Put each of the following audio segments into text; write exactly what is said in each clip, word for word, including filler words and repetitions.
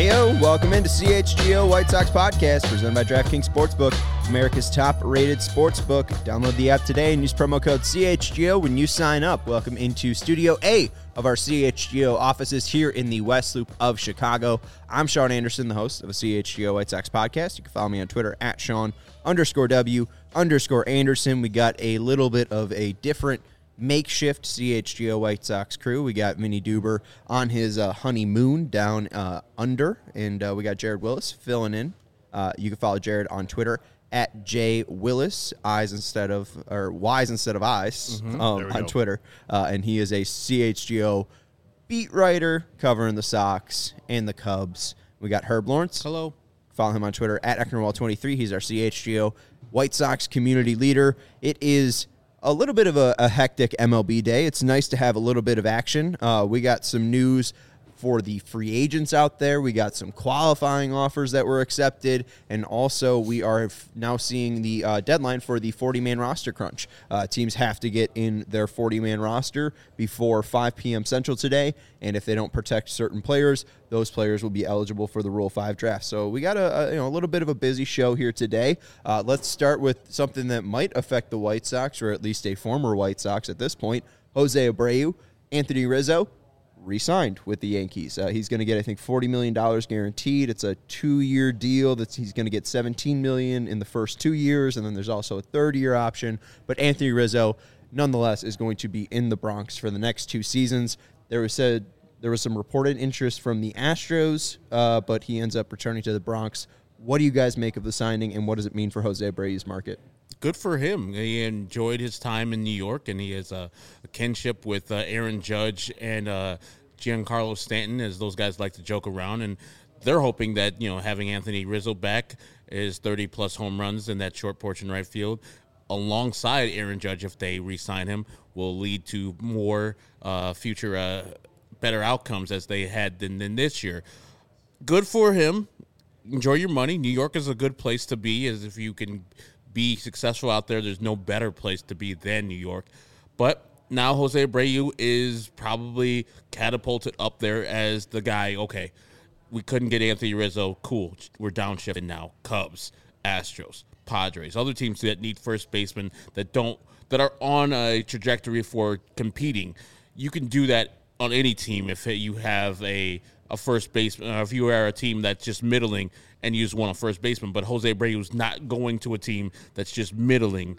Heyo, welcome into C H G O White Sox Podcast, presented by DraftKings Sportsbook, America's top-rated sportsbook. Download the app today and use promo code C H G O when you sign up. Welcome into Studio A of our C H G O offices here in the West Loop of Chicago. I'm Sean Anderson, the host of the C H G O White Sox Podcast. You can follow me on Twitter at Sean underscore W underscore Anderson. We got a little bit of a different makeshift C H G O White Sox crew. We got Vinny Duber on his uh, honeymoon down uh, under, and uh, we got Jared Willis filling in. Uh, you can follow Jared on Twitter at J Willis, eyes instead of, or Y's instead of eyes, mm-hmm. um, on go. Twitter. Uh, and he is a C H G O beat writer covering the Sox and the Cubs. We got Herb Lawrence. Hello. Follow him on Twitter at Ecknerwall twenty-three. He's our C H G O White Sox community leader. It is a little bit of a, a hectic M L B day. It's nice to have a little bit of action. Uh, we got some news for the free agents out there. We got some qualifying offers that were accepted, and also we are now seeing the uh, deadline for the forty-man roster crunch. Uh, teams have to get in their forty-man roster before five p.m. Central today, and if they don't protect certain players, those players will be eligible for the Rule five draft. So we got a, a you know a little bit of a busy show here today. Uh, let's start with something that might affect the White Sox, or at least a former White Sox at this point. Jose Abreu, Anthony Rizzo, re-signed with the Yankees. Uh, he's going to get, I think, forty million dollars guaranteed. It's a two-year deal. That's he's going to get seventeen million dollars in the first two years, and then there's also a third-year option. But Anthony Rizzo, nonetheless, is going to be in the Bronx for the next two seasons. There was said there was some reported interest from the Astros, uh, but he ends up returning to the Bronx. What do you guys make of the signing, and what does it mean for Jose Abreu's market? Good for him. He enjoyed his time in New York, and he has a, a kinship with uh, Aaron Judge and uh, Giancarlo Stanton, as those guys like to joke around. And they're hoping that, you know, having Anthony Rizzo back, is thirty-plus home runs in that short porch in right field, alongside Aaron Judge, if they re-sign him, will lead to more uh, future uh, better outcomes as they had than, than this year. Good for him. Enjoy your money. New York is a good place to be, as if you can be successful out there. There's no better place to be than New York. But now Jose Abreu is probably catapulted up there as the guy. Okay, we couldn't get Anthony Rizzo. Cool. We're downshifting now. Cubs, Astros, Padres, other teams that need first basemen that don't that are on a trajectory for competing. You can do that on any team if you have a a first baseman, uh, if you are a team that's just middling and use one on first baseman. But Jose Abreu is not going to a team that's just middling.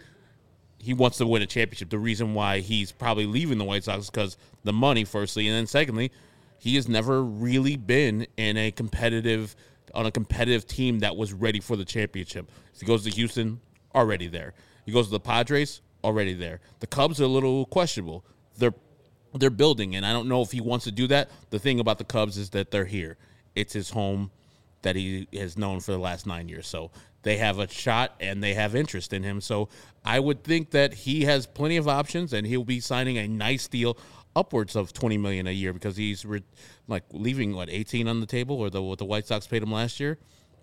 He wants to win a championship. The reason why he's probably leaving the White Sox is because the money, firstly, and then secondly, he has never really been in a competitive on a competitive team that was ready for the championship. If he goes to Houston, already there. He goes to the Padres, already there. The Cubs are a little questionable. They're They're building, and I don't know if he wants to do that. The thing about the Cubs is that they're here. It's his home that he has known for the last nine years. So they have a shot, and they have interest in him. So I would think that he has plenty of options, and he'll be signing a nice deal upwards of twenty million dollars a year, because he's re- like leaving, what, eighteen on the table, or the, what the White Sox paid him last year.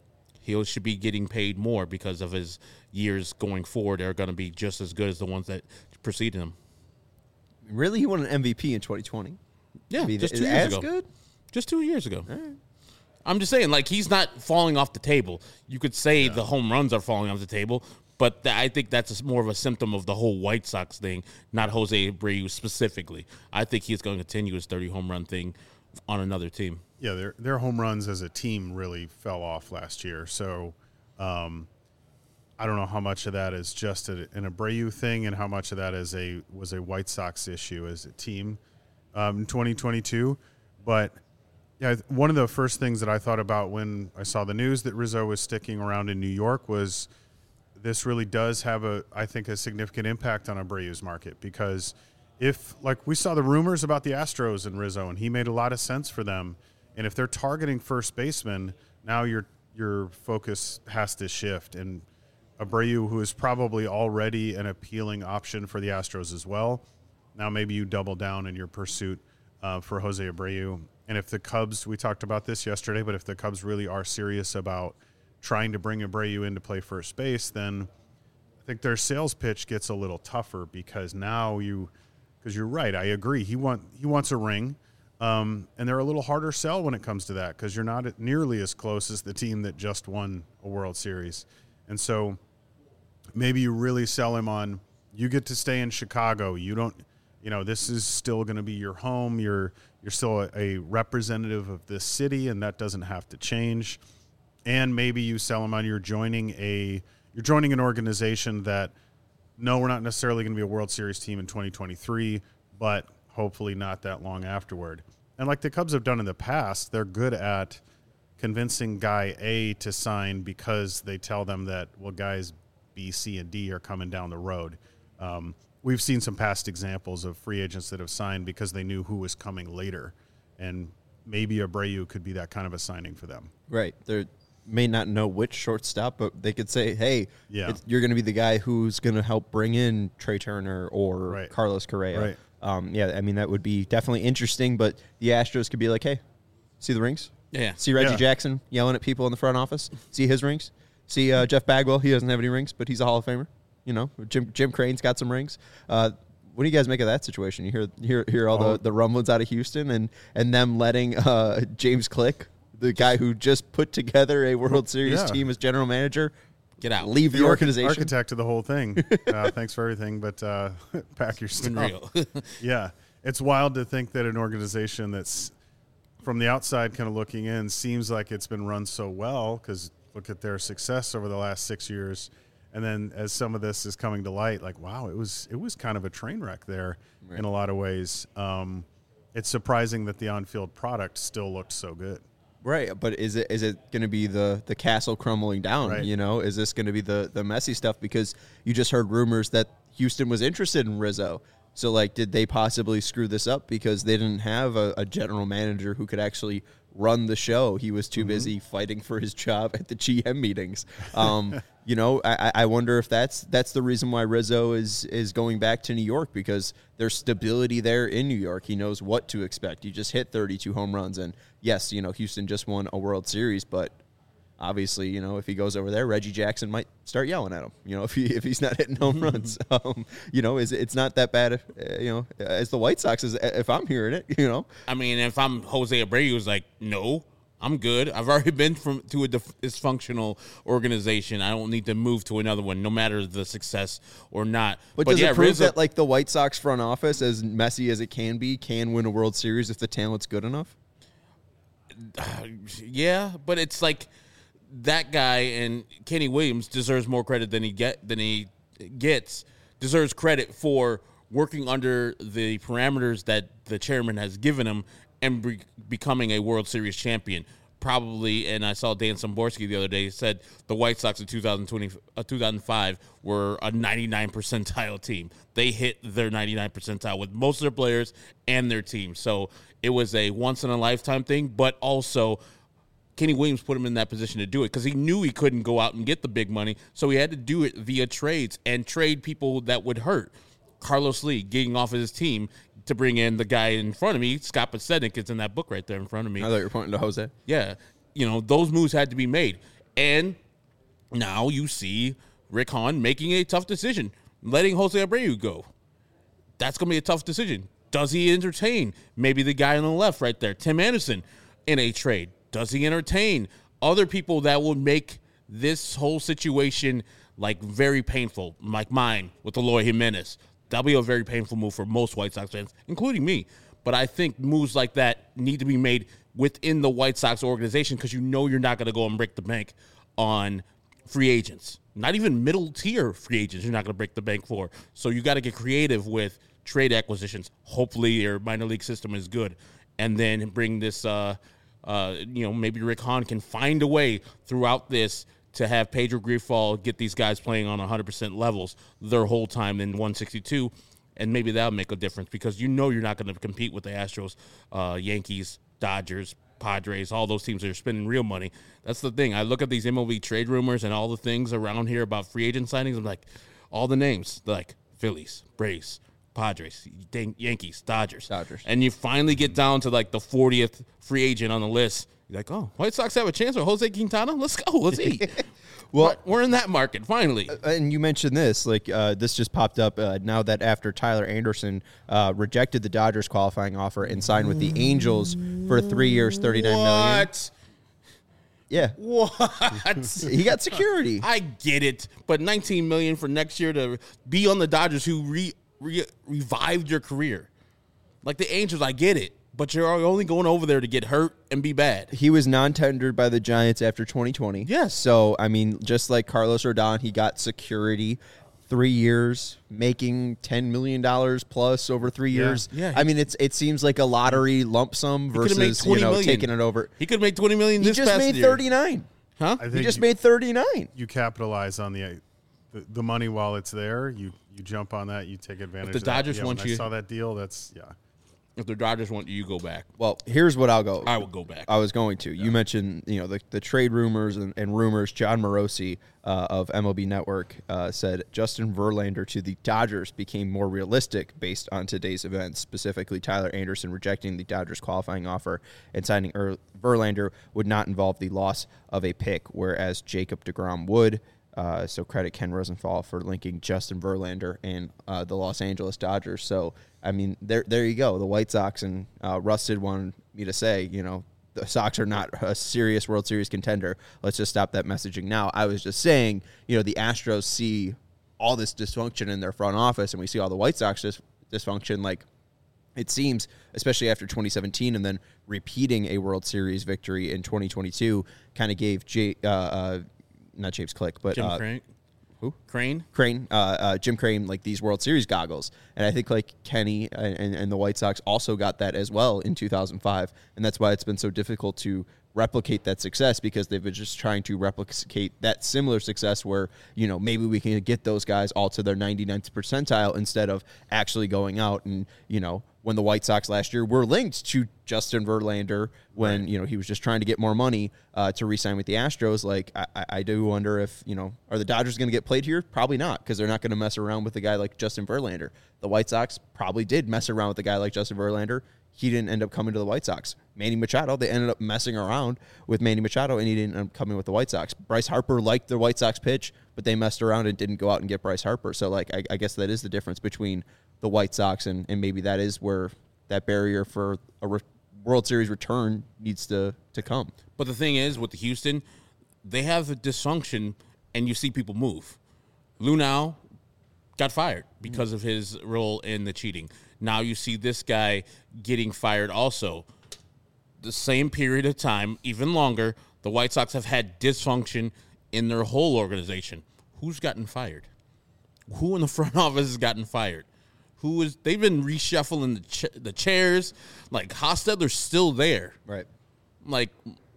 He should be getting paid more because of his years going forward. They're going to be just as good as the ones that preceded him. Really? He won an M V P in twenty twenty? Yeah, I mean, just two years as ago. good? Just two years ago. All right. I'm just saying, like, he's not falling off the table. You could say yeah. the home runs are falling off the table, but th- I think that's a, more of a symptom of the whole White Sox thing, not Jose Abreu specifically. I think he's going to continue his thirty home run thing on another team. Yeah, their their home runs as a team really fell off last year. So um, I don't know how much of that is just a, an Abreu thing and how much of that is a was a White Sox issue as a team um, in twenty twenty-two. But yeah, one of the first things that I thought about when I saw the news that Rizzo was sticking around in New York was this really does have a, I think, a significant impact on Abreu's market, because if, like, we saw the rumors about the Astros and Rizzo, and he made a lot of sense for them, and if they're targeting first baseman, now your your focus has to shift. And Abreu, who is probably already an appealing option for the Astros as well, now maybe you double down in your pursuit uh, for Jose Abreu. And if the Cubs, we talked about this yesterday, but if the Cubs really are serious about trying to bring Abreu in to play first base, then I think their sales pitch gets a little tougher, because now you, because you're right, I agree, he want he wants a ring, Um, and they're a little harder sell when it comes to that because you're not nearly as close as the team that just won a World Series. And so maybe you really sell him on, you get to stay in Chicago. You don't, you know, this is still going to be your home. You're you're still a, a representative of this city, and that doesn't have to change. And maybe you sell him on you're joining a you're joining an organization that, no, we're not necessarily going to be a World Series team in twenty twenty-three, but hopefully not that long afterward. And like the Cubs have done in the past, they're good at convincing guy A to sign because they tell them that, well, guys B, C, and D are coming down the road. Um, we've seen some past examples of free agents that have signed because they knew who was coming later. And maybe Abreu could be that kind of a signing for them. Right. They may not know which shortstop, but they could say, hey, yeah. it's, you're going to be the guy who's going to help bring in Trey Turner or right. Carlos Correa. Right. Um, yeah, I mean, that would be definitely interesting, but the Astros could be like, hey, see the rings? Yeah. See Reggie Yeah. Jackson yelling at people in the front office? See his rings? See uh, Jeff Bagwell? He doesn't have any rings, but he's a Hall of Famer. You know, Jim Jim Crane's got some rings. Uh, what do you guys make of that situation? You hear hear hear all Oh. the, the rumblings out of Houston and, and them letting uh, James Click, the guy who just put together a World Series Yeah. team as general manager, Get out. leave the, The archi- organization. architect of the whole thing. Uh, thanks for everything, but uh, pack your It's stuff. been real. Yeah. It's wild to think that an organization that's from the outside kind of looking in seems like it's been run so well because look at their success over the last six years. And then as some of this is coming to light, like, wow, it was it was kind of a train wreck there Right. in a lot of ways. Um, it's surprising that the on-field product still looked so good. Right, but is it is it going to be the, the castle crumbling down, Right. you know? Is this going to be the, the messy stuff? Because you just heard rumors that Houston was interested in Rizzo. So, like, did they possibly screw this up because they didn't have a, a general manager who could actually run the show? He was too Mm-hmm. busy fighting for his job at the G M meetings. Um, you know, I, I wonder if that's that's the reason why Rizzo is is going back to New York, because there's stability there in New York. He knows what to expect. He just hit thirty-two home runs, and yes, you know, Houston just won a World Series, but obviously, you know, if he goes over there, Reggie Jackson might start yelling at him. You know, if he if he's not hitting home runs, um, you know, is it's not that bad. If, uh, you know, as the White Sox, is if I'm hearing it, you know, I mean, if I'm Jose Abreu, who's like, no, I'm good. I've already been from to a dif- dysfunctional organization. I don't need to move to another one, no matter the success or not. but, does yeah, it prove Rizzo- that like the White Sox front office, as messy as it can be, can win a World Series if the talent's good enough? yeah, but it's like that guy and Kenny Williams deserves more credit than he get than he gets. Deserves credit for working under the parameters that the chairman has given him and be- becoming a World Series champion. Probably, and I saw Dan Szymborski the other day said the White Sox in two thousand twenty, uh, two thousand five were a ninety-nine percentile team. They hit their ninety-nine percentile with most of their players and their team. So it was a once-in-a-lifetime thing, but also Kenny Williams put him in that position to do it because he knew he couldn't go out and get the big money, so he had to do it via trades and trade people that would hurt. Carlos Lee getting off of his team to bring in the guy in front of me, Scott Podsednik, is in that book right there in front of me. I thought you were pointing to Jose. Yeah, you know, those moves had to be made. And now you see Rick Hahn making a tough decision, letting Jose Abreu go. That's going to be a tough decision. Does he entertain maybe the guy on the left right there, Tim Anderson, in a trade? Does he entertain other people that would make this whole situation like very painful, like mine with Eloy Jimenez? That'll be a very painful move for most White Sox fans, including me. But I think moves like that need to be made within the White Sox organization because you know you're not going to go and break the bank on free agents. Not even middle-tier free agents you're not going to break the bank for. So you got to get creative with trade acquisitions. Hopefully your minor league system is good. And then bring this, uh, uh, you know, maybe Rick Hahn can find a way throughout this to have Pedro Grifol get these guys playing on one hundred percent levels their whole time in one sixty-two, and maybe that'll make a difference because you know you're not going to compete with the Astros, uh, Yankees, Dodgers, Padres, all those teams that are spending real money. That's the thing. I look at these M L B trade rumors and all the things around here about free agent signings. I'm like, all the names, like Phillies, Braves, Padres, Yankees, Dodgers. Dodgers. And you finally get down to like the fortieth free agent on the list. You're like, oh, White Sox have a chance with Jose Quintana? Let's go. Let's eat. Well, But we're in that market finally. and you mentioned this, like uh, this just popped up uh, now that after Tyler Anderson uh, rejected the Dodgers qualifying offer and signed with the Angels for three years, thirty-nine million. What? Yeah, What? he got security. I get it, but nineteen million for next year to be on the Dodgers, who re, re, revived your career, like the Angels. I get it, but you're only going over there to get hurt and be bad. He was non-tendered by the Giants after twenty twenty. Yes. So, I mean, just like Carlos Rodon, he got security, three years, making ten million dollars plus over three Yeah. years. Yeah, I mean, it's it seems like a lottery lump sum could've made versus, you twenty know, million. taking it over. He could make twenty million He this just past made year. thirty-nine. Huh? I He think just you, made thirty-nine. you capitalize on the, the the money while it's there. You you jump on that. You take advantage. the of that. Dodgers yeah, want when you- I saw that deal. That's yeah. If the Dodgers want you, you go back. Well, here's what I'll go. I will go back. I was going to. You mentioned, you know, the, the trade rumors and, and rumors. John Morosi uh, of M L B Network uh, said Justin Verlander to the Dodgers became more realistic based on today's events. Specifically, Tyler Anderson rejecting the Dodgers qualifying offer and signing er- Verlander would not involve the loss of a pick, whereas Jacob deGrom would. Uh, so credit Ken Rosenthal for linking Justin Verlander and uh, the Los Angeles Dodgers. So, I mean, there there you go. The White Sox and uh, Rusted wanted me to say, you know, the Sox are not a serious World Series contender. Let's just stop that messaging now. I was just saying, you know, the Astros see all this dysfunction in their front office, and we see all the White Sox dis- dysfunction. Like, it seems, especially after twenty seventeen and then repeating a World Series victory in twenty twenty-two, kind of gave J- uh, uh, not James Click, but Jim uh, Crane. who? Crane. Crane, uh, uh, Jim Crane, like these World Series goggles. And I think like Kenny and, and the White Sox also got that as well in two thousand five. And that's why it's been so difficult to replicate that success, because they've been just trying to replicate that similar success where, you know, maybe we can get those guys all to their ninety-ninth percentile instead of actually going out and, you know, when the White Sox last year were linked to Justin Verlander when, right. you know, he was just trying to get more money uh, to re-sign with the Astros. Like, I, I do wonder if, you know, are the Dodgers going to get played here? Probably not, because they're not going to mess around with a guy like Justin Verlander. The White Sox probably did mess around with a guy like Justin Verlander. He didn't end up coming to the White Sox. Manny Machado, they ended up messing around with Manny Machado, and he didn't end up coming with the White Sox. Bryce Harper liked the White Sox pitch, but they messed around and didn't go out and get Bryce Harper. So, like, I, I guess that is the difference between the White Sox, and, and maybe that is where that barrier for a re- World Series return needs to, to come. But the thing is, with the Houston, they have a dysfunction, and you see people move. Lunau got fired because of his role in the cheating. Now you see this guy getting fired also. The same period of time, even longer, the White Sox have had dysfunction in their whole organization. Who's gotten fired? Who in the front office has gotten fired? Who is? They've been reshuffling the ch- the chairs. Like Hostetler's still there. Right. Like,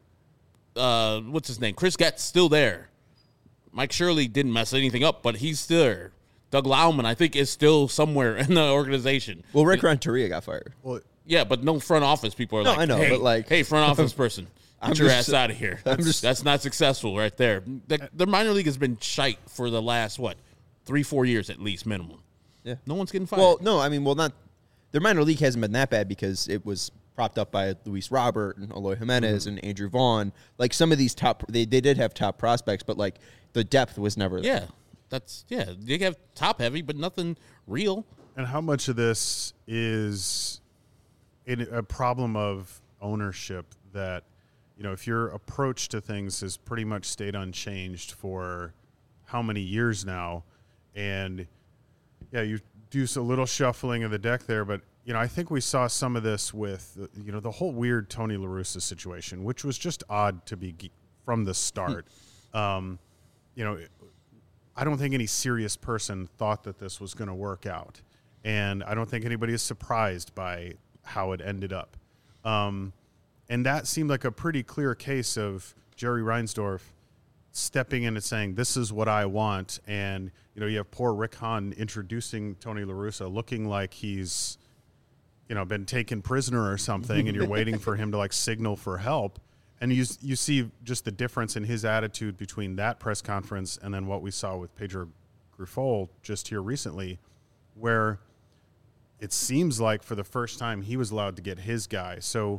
uh, what's his name? Chris Gett's still there. Mike Shirley didn't mess anything up, but he's still there. Doug Lauman, I think, is still somewhere in the organization. Well, Rick Renteria got fired. Well, Yeah, but no front office people are No, like, I know, hey, but like- hey, front office person, I'm get your just- ass out of here. I'm That's, just- that's not successful right there. The, the minor league has been shite for the last, what, three, four years at least, minimum. Yeah. No one's getting fired. Well, no, I mean, well, not their minor league hasn't been that bad because it was propped up by Luis Robert and Eloy Jimenez mm-hmm. and Andrew Vaughn. Like some of these top, they, they did have top prospects, but like the depth was never there. yeah, that's, yeah, they have top heavy, but nothing real. and how much of this is in a problem of ownership that, you know, if your approach to things has pretty much stayed unchanged for how many years now, and yeah, you do a little shuffling of the deck there, but you know, I think we saw some of this with, you know, the whole weird Tony La Russa situation, which was just odd to be from the start. um, you know, I don't think any serious person thought that this was going to work out, and I don't think anybody is surprised by how it ended up. Um, and that seemed like a pretty clear case of Jerry Reinsdorf stepping in and saying, this is what I want. And, you know, you have poor Rick Hahn introducing Tony La Russa looking like he's, you know, been taken prisoner or something, and you're waiting for him to like signal for help. And you you see just the difference in his attitude between that press conference and then what we saw with Pedro Grifol just here recently, where it seems like for the first time he was allowed to get his guy. So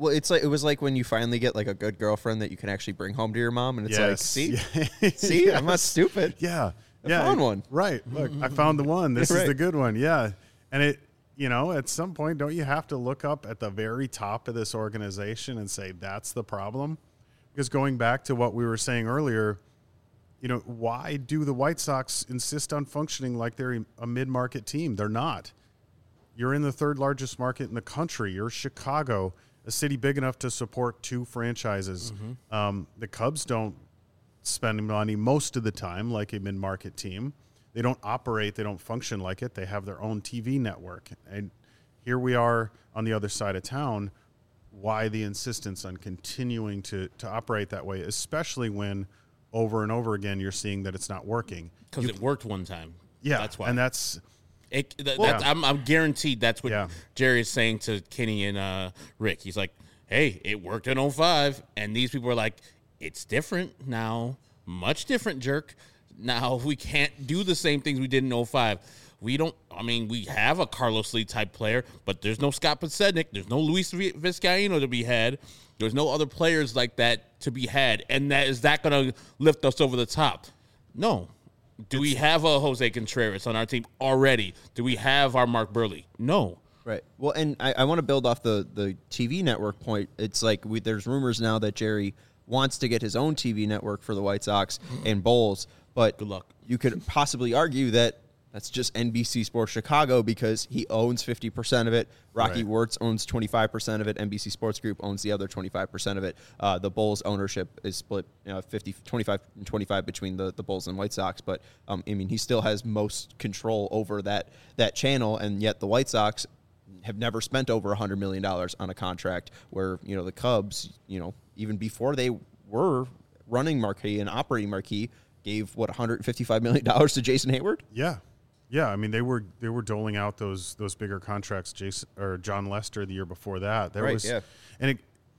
Well, it's like it was like when you finally get like a good girlfriend that you can actually bring home to your mom, and it's like, Yes. see, Yeah. see, Yes. I'm not stupid. Yeah. I yeah. found one. Right. Look, I found the one. This Right. is the good one. Yeah. And it, you know, at some point, don't you have to look up at the very top of this organization and say, that's the problem? Because going back to what we were saying earlier, you know, why do the White Sox insist on functioning like they're a mid-market team? They're not. You're in the third largest market in the country. You're Chicago, a city big enough to support two franchises. Mm-hmm. Um, the Cubs don't spend money most of the time like a mid-market team. They don't operate, they don't function like it. They have their own T V network. And here we are on the other side of town. Why the insistence on continuing to, to operate that way, especially when over and over again you're seeing that it's not working? Because it worked one time. Yeah, that's why. and that's It, th- Well, that's, yeah. I'm, I'm guaranteed that's what Yeah. Jerry is saying to Kenny and uh, Rick. He's like, hey, it worked in oh five. And these people are like, it's different now. Much different, jerk. Now we can't do the same things we did in oh five. We don't, I mean, we have a Carlos Lee type player, but there's no Scott Podsednik. There's no Luis Vi- Vizcaíno to be had. There's no other players like that to be had. And that is that going to lift us over the top? No. Do we have a Jose Contreras on our team already? Do we have our Mark Burley? No. Right. Well, and I, I want to build off the, the T V network point. It's like we, there's rumors now that Jerry wants to get his own T V network for the White Sox and Bulls, but Good luck. You could possibly argue that that's just N B C Sports Chicago because he owns fifty percent of it. Rocky Right. Wirtz owns twenty-five percent of it. N B C Sports Group owns the other twenty-five percent of it. Uh, the Bulls ownership is split you know, fifty, twenty-five, and twenty-five between the, the Bulls and White Sox. But, um, I mean, he still has most control over that that channel, and yet the White Sox have never spent over one hundred million dollars on a contract where, you know, the Cubs, you know, even before they were running Marquee and operating Marquee, gave, what, one hundred fifty-five million dollars to Jason Hayward? yeah. Yeah, I mean they were they were doling out those those bigger contracts. Jason or John Lester the year before that. There Right, was, yeah. and it,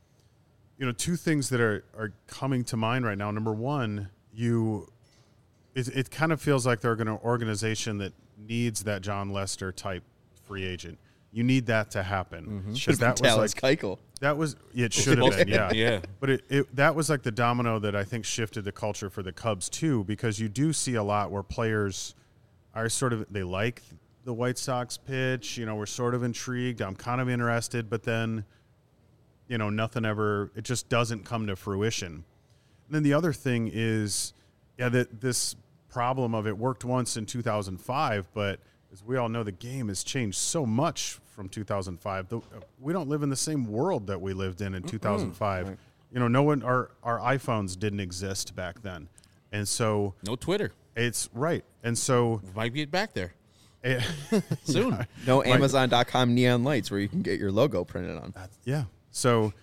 you know, two things that are, are coming to mind right now. Number one, you, it, it kind of feels like they're an organization that needs that John Lester type free agent. You need that to happen. Mm-hmm. 'Cause that was Dallas like Keuchel. that was it should have been yeah Yeah. But it, it that was like the domino that I think shifted the culture for the Cubs too, because you do see a lot where players are sort of, they like the White Sox pitch, you know, we're sort of intrigued, I'm kind of interested, but then, you know, nothing ever, it just doesn't come to fruition. And then the other thing is, yeah, that this problem of it worked once in two thousand five, but as we all know, the game has changed so much from two thousand five. The, we don't live in the same world that we lived in in two thousand five. Right. You know, no one, our, our iPhones didn't exist back then. And so No Twitter. it's right. And so We might get back there eh, soon. No Amazon dot com neon lights where you can get your logo printed on. yeah. So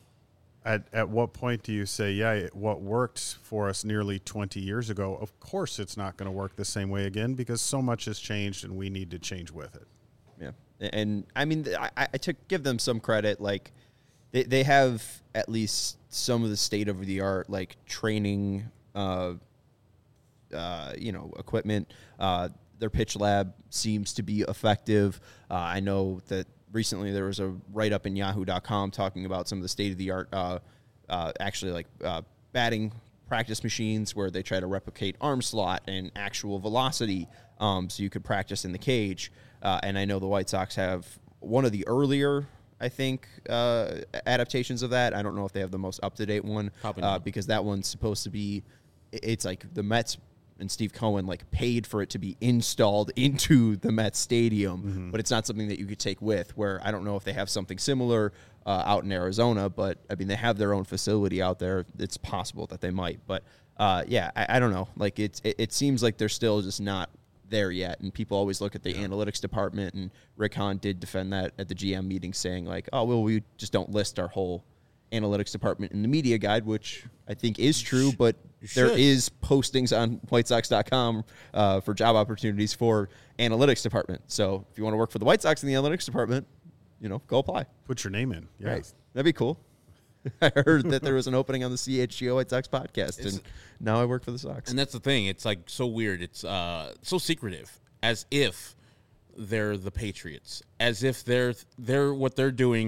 at at what point do you say, yeah, it- what worked for us nearly twenty years ago, of course it's not going to work the same way again because so much has changed and we need to change with it. Yeah. And, I mean, I, I took give them some credit. Like, they, they have at least some of the state-of-the-art, like, training, uh, uh, you know, equipment. Uh, their pitch lab seems to be effective. Uh, I know that recently there was a write-up in yahoo dot com talking about some of the state-of-the-art, uh, uh, actually, like, uh, batting practice machines where they try to replicate arm slot and actual velocity um, so you could practice in the cage. Uh, and I know the White Sox have one of the earlier, I think, uh, adaptations of that. I don't know if they have the most up-to-date one Probably uh, not. because that one's supposed to be – it's like the Mets and Steve Cohen like paid for it to be installed into the Mets stadium, Mm-hmm. but it's not something that you could take with, where I don't know if they have something similar uh, out in Arizona, but I mean, they have their own facility out there. It's possible that they might, but uh, yeah, I, I don't know. Like it's, it, it seems like they're still just not there yet. And people always look at the yeah. analytics department, and Rick Hahn did defend that at the G M meeting, saying like, oh, well, we just don't list our whole analytics department in the media guide, which I think is true, but there is postings on white sox dot com uh, for job opportunities for analytics department. So if you want to work for the White Sox in the analytics department, you know, go apply. Put your name in. Yeah. Right. That'd be cool. I heard that there was an opening on the C H G O White Sox podcast, It's, and now I work for the Sox. And that's the thing. It's like so weird. It's uh, so secretive, as if they're the Patriots, as if they're they're what they're doing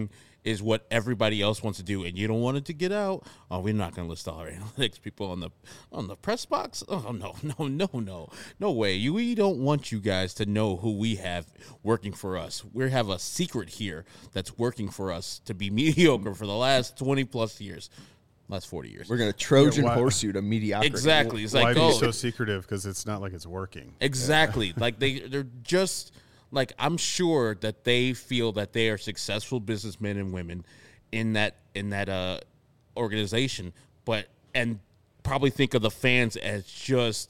is what everybody else wants to do, and you don't want it to get out. Oh, we're not going to list all our analytics people on the on the press box. Oh no, no, no, no, no way. You, we don't want you guys to know who we have working for us. We have a secret here that's working for us to be mediocre for the last twenty plus years, last forty years. We're gonna Trojan Yeah, why- horse you to mediocrity. Exactly. It's Why like be oh, so secretive? Because it's not like it's working. exactly. Like they they're just like I'm sure that they feel that they are successful businessmen and women in that in that uh organization, but and probably think of the fans as just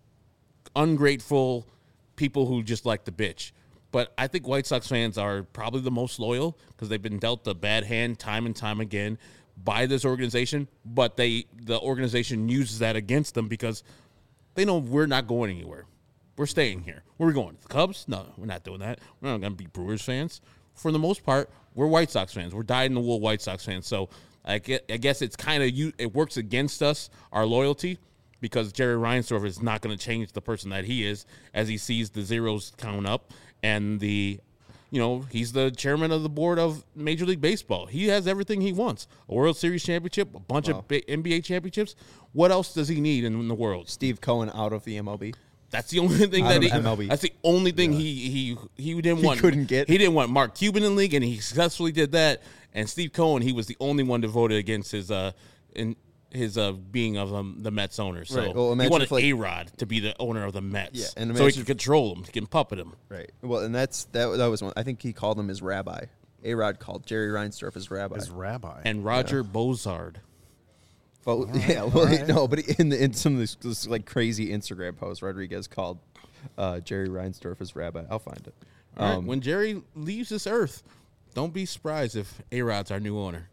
ungrateful people who just like to bitch. But I think White Sox fans are probably the most loyal because they've been dealt a bad hand time and time again by this organization. But they the organization uses that against them because they know we're not going anywhere. We're staying here. Where are we going? The Cubs? No, we're not doing that. We're not going to be Brewers fans. For the most part, we're White Sox fans. We're dyed-in-the-wool White Sox fans. So I guess it's kind of you. It works against us, our loyalty, because Jerry Reinsdorf is not going to change the person that he is as he sees the zeros count up and the, you know, he's the chairman of the board of Major League Baseball. He has everything he wants: a World Series championship, a bunch Wow. of ba- N B A championships. What else does he need in the world? Steve Cohen out of the M L B. That's the only thing Out that of he. M L B. That's the only thing he he he didn't He want. couldn't get. He didn't want Mark Cuban in the league, and he successfully did that. And Steve Cohen, he was the only one to vote against his uh in his uh being of um, the Mets owner. So Right. Well, he imagine wanted if, like- A-Rod to be the owner of the Mets. Yeah, and so he imagine can control him, he can puppet him. Right. Well, and that's that. That was one. I think he called him his rabbi. A Rod called Jerry Reinsdorf his rabbi. As rabbi. And Roger Bozard. But yeah, well, no, but in the in some of this, this like crazy Instagram posts, Rodriguez called uh, Jerry Reinsdorf his rabbi. I'll find it. All right, Um, when Jerry leaves this earth, don't be surprised if A-Rod's our new owner.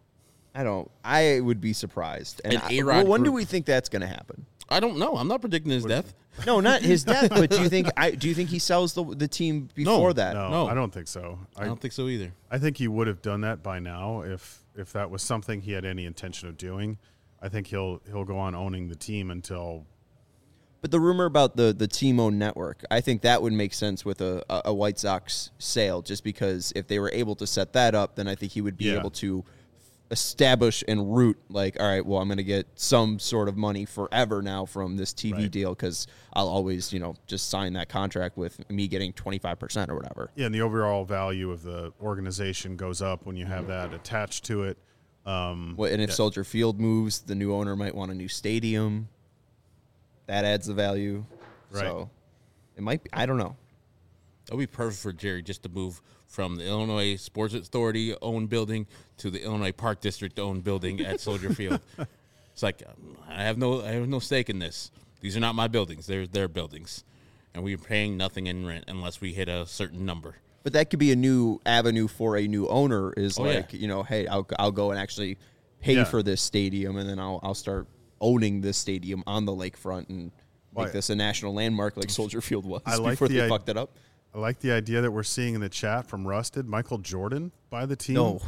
I don't. I would be surprised. And An I, A-Rod well, when do group. we think that's going to happen? I don't know. I'm not predicting his death. No, not his death. But do you think? I do you think he sells the the team before that? no, No. I don't think so. I don't think so either. I think he would have done that by now if if that was something he had any intention of doing. I think he'll he'll go on owning the team until. But the rumor about the the team owned network, I think that would make sense with a, a, a White Sox sale, just because if they were able to set that up, then I think he would be Yeah. able to establish and root like, all right, well, I'm going to get some sort of money forever now from this T V Right. deal because I'll always, you know, just sign that contract with me getting twenty-five percent or whatever. Yeah, and the overall value of the organization goes up when you have that attached to it. Um, Well, and if yeah. Soldier Field moves, the new owner might want a new stadium. That adds the value. Right. So it might be, I don't know. That would be perfect for Jerry just to move from the Illinois Sports Authority owned building to the Illinois Park District owned building at Soldier Field. It's like um, I have no I have no stake in this. These are not my buildings. They're their buildings, and we're paying nothing in rent unless we hit a certain number. But that could be a new avenue for a new owner is Oh, like, yeah. you know, hey, I'll, I'll go and actually pay Yeah. for this stadium, and then I'll I'll start owning this stadium on the lakefront and make Why- this a national landmark like Soldier Field was I like before the they i- fucked it up. I like the idea that we're seeing in the chat from Rusted. Michael Jordan buy the team. No.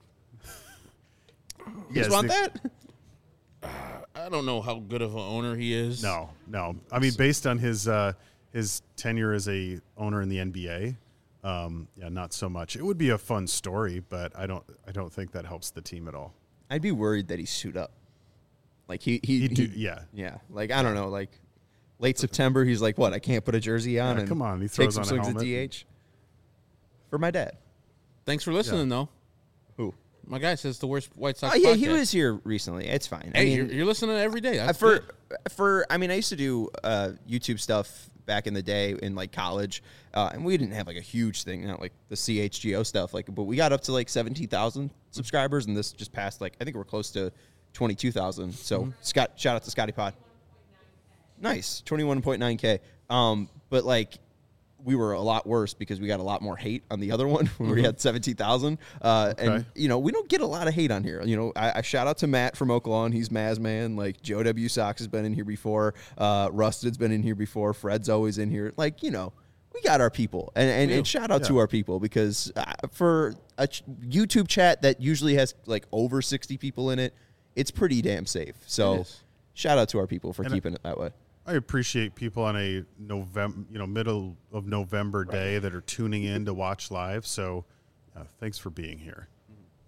You Yes, guys want the- that? I don't know how good of an owner he is. No, no. I mean, based on his uh, his tenure as a owner in the N B A, um, yeah, not so much. It would be a fun story, but I don't I don't think that helps the team at all. I'd be worried that he's suit up. Like he he, He'd do- he- yeah. yeah. Like I don't know. Like late September, he's like, what? I can't put a jersey on. Yeah, and come on, he take throws some on a swings at helmet. D H for my dad. Thanks for listening, though. Who? My guy says the worst White Sox. Oh yeah, he podcast. was here recently. It's fine. Hey, I mean, you're, you're listening every day. Uh, That's for good. for I mean, I used to do uh, YouTube stuff back in the day in like college, uh, and we didn't have like a huge thing, not like the C H G O stuff. Like, but we got up to like seventeen thousand subscribers, and this just passed like I think we're close to twenty two thousand. So Mm-hmm. Scott, shout out to Scotty Pod. Nice, twenty one point nine k. Um, but like. We were a lot worse because we got a lot more hate on the other one when we had seventeen thousand. Uh, And, Okay. you know, we don't get a lot of hate on here. You know, I, I shout out to Matt from Oaklawn. He's Maz Man. Like, Joe W. Sox has been in here before. Uh, Rusted's been in here before. Fred's always in here. Like, you know, we got our people. And, and, and shout out to Yeah. our people because uh, for a ch- YouTube chat that usually has like over sixty people in it, it's pretty damn safe. It So is. shout out to our people for And I- keeping it that way. I appreciate people on a November, you know, middle of November day that are tuning in to watch live. So, uh, thanks for being here.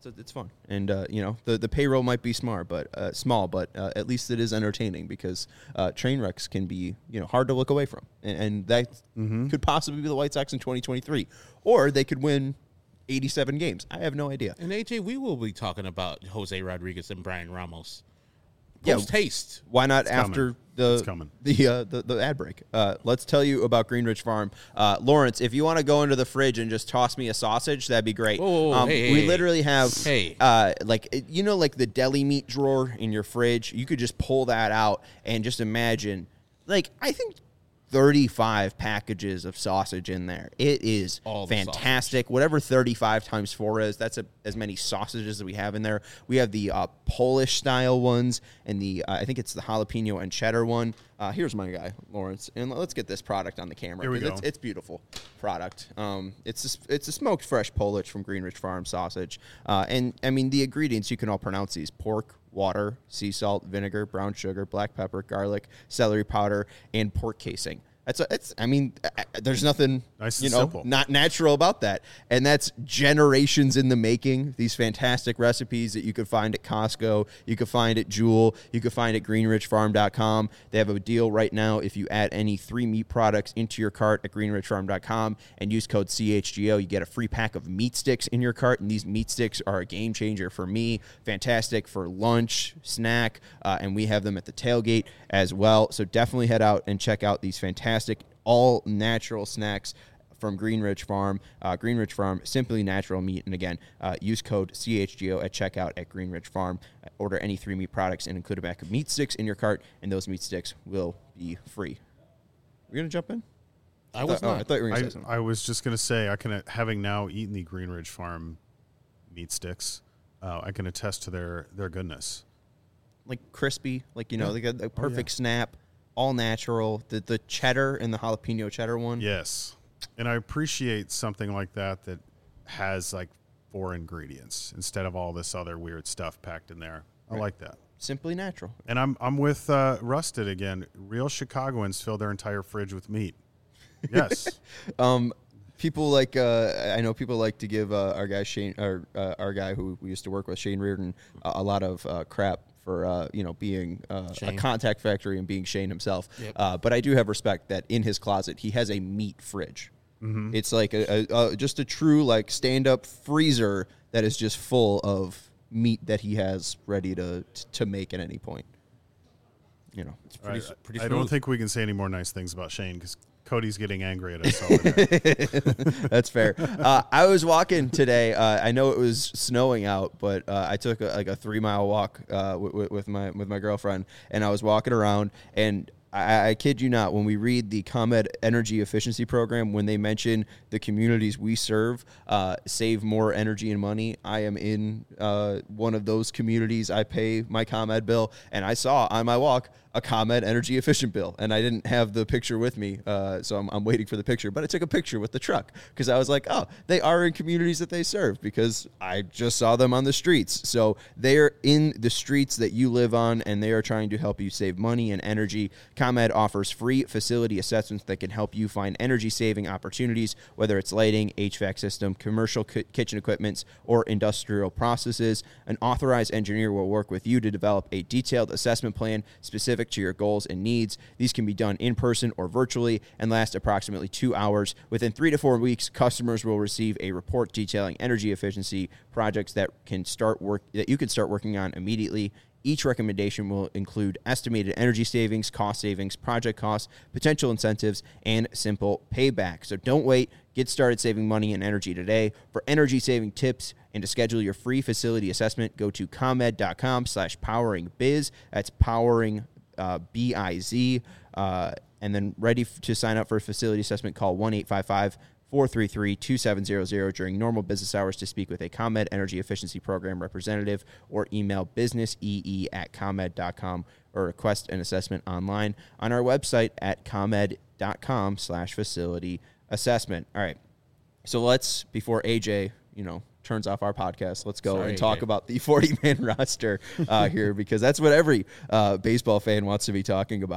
It's, it's fun, and uh, you know the the payroll might be smart, but uh, small, but uh, at least it is entertaining because uh, train wrecks can be you know hard to look away from, and, and that mm-hmm. could possibly be the White Sox in twenty twenty-three, or they could win eighty-seven games. I have no idea. And A J, we will be talking about Jose Rodriguez and Brian Ramos. Yeah, Post haste. Why not It's after coming. the the, uh, the the ad break? Uh, let's tell you about Greenridge Farm. Uh, Lawrence, if you want to go into the fridge and just toss me a sausage, that'd be great. Whoa, whoa, whoa, um, hey, we hey, literally have hey. uh, like you know like the deli meat drawer in your fridge. You could just pull that out and just imagine, like I think. thirty-five packages of sausage in there. It is All the fantastic. Whatever thirty-five times four is, that's a, as many sausages as we have in there. We have the uh, Polish style ones and the, uh, I think it's the jalapeno and cheddar one. Uh, here's my guy, Lawrence. And let's get this product on the camera. Here we go. It's, it's beautiful product. Um, it's a, it's a smoked fresh Polish from Greenridge Farm sausage. Uh, and, I mean, the ingredients, you can all pronounce these. Pork, water, sea salt, vinegar, brown sugar, black pepper, garlic, celery powder, and pork casing. That's a, it's. I mean, there's nothing nice you and know simple. not natural about that, and that's generations in the making. These fantastic recipes that you could find at Costco, you could find at Jewel, you could find at greenridge farm dot com. They have a deal right now if you add any three meat products into your cart at greenridge farm dot com and use code C H G O, you get a free pack of meat sticks in your cart, and these meat sticks are a game changer for me. Fantastic for lunch, snack, uh, and we have them at the tailgate as well. So definitely head out and check out these fantastic all natural snacks from Greenridge Farm. Uh, Greenridge Farm, simply natural meat. And again, uh, use code C H G O at checkout at Greenridge Farm. Uh, order any three meat products and include a pack of meat sticks in your cart, and those meat sticks will be free. We're going to jump in? I was oh, not. I thought you were going to I, say something. I was just going to say, I can, having now eaten the Greenridge Farm meat sticks, uh, I can attest to their, their goodness. Like crispy, like, you know, Yeah. like a, a perfect yeah. snap, all natural. The, the cheddar and the jalapeno cheddar one. Yes. And I appreciate something like that that has like four ingredients instead of all this other weird stuff packed in there. I Right. like that. Simply natural. And I'm I'm with uh, Rusted again. Real Chicagoans fill their entire fridge with meat. Yes. Um, people like uh, I know people like to give uh, our guy Shane, our uh, our guy who we used to work with, Shane Reardon, uh, a lot of uh, crap for uh, you know being uh, a Shane. contact factory and being Shane himself. Yep. Uh, but I do have respect that in his closet he has a meat fridge. Mm-hmm. It's like a, a, a just a true like stand up freezer that is just full of meat that he has ready to to make at any point. You know, It's pretty, I, pretty I smooth. don't think we can say any more nice things about Shane because Cody's getting angry at us over there. That's fair. Uh, I was walking today. Uh, I know it was snowing out, but uh, I took a, like a three mile walk uh, with, with my with my girlfriend, and I was walking around. And I, I kid you not, when we read the ComEd Energy Efficiency Program, when they mention the communities we serve uh, save more energy and money, I am in uh, one of those communities. I pay my ComEd bill, and I saw on my walk a ComEd energy efficient bill, and I didn't have the picture with me, uh, so I'm, I'm waiting for the picture. But I took a picture with the truck because I was like, oh, they are in communities that they serve because I just saw them on the streets. So they're in the streets that you live on, and they are trying to help you save money and energy. ComEd offers free facility assessments that can help you find energy-saving opportunities, whether it's lighting, H V A C system, commercial ki- kitchen equipments, or industrial processes. An authorized engineer will work with you to develop a detailed assessment plan specific to your goals and needs. These can be done in person or virtually and last approximately two hours. Within three to four weeks, customers will receive a report detailing energy efficiency projects that can start work that you can start working on immediately. Each recommendation will include estimated energy savings, cost savings, project costs, potential incentives, and simple payback. So don't wait. Get started saving money and energy today. For energy-saving tips and to schedule your free facility assessment, go to comed.com slash poweringbiz. That's powering uh, B I Z. Uh, and then ready f- to sign up for a facility assessment, call one eight five five, four three three, two seven zero zero during normal business hours to speak with a ComEd Energy Efficiency Program representative, or email businessee at comed dot com or request an assessment online on our website at comed.com slash facility assessment. All right. So let's, before A J, you know, turns off our podcast, let's go Sorry, and talk A J. about the forty-man roster uh, here, because that's what every uh, baseball fan wants to be talking about.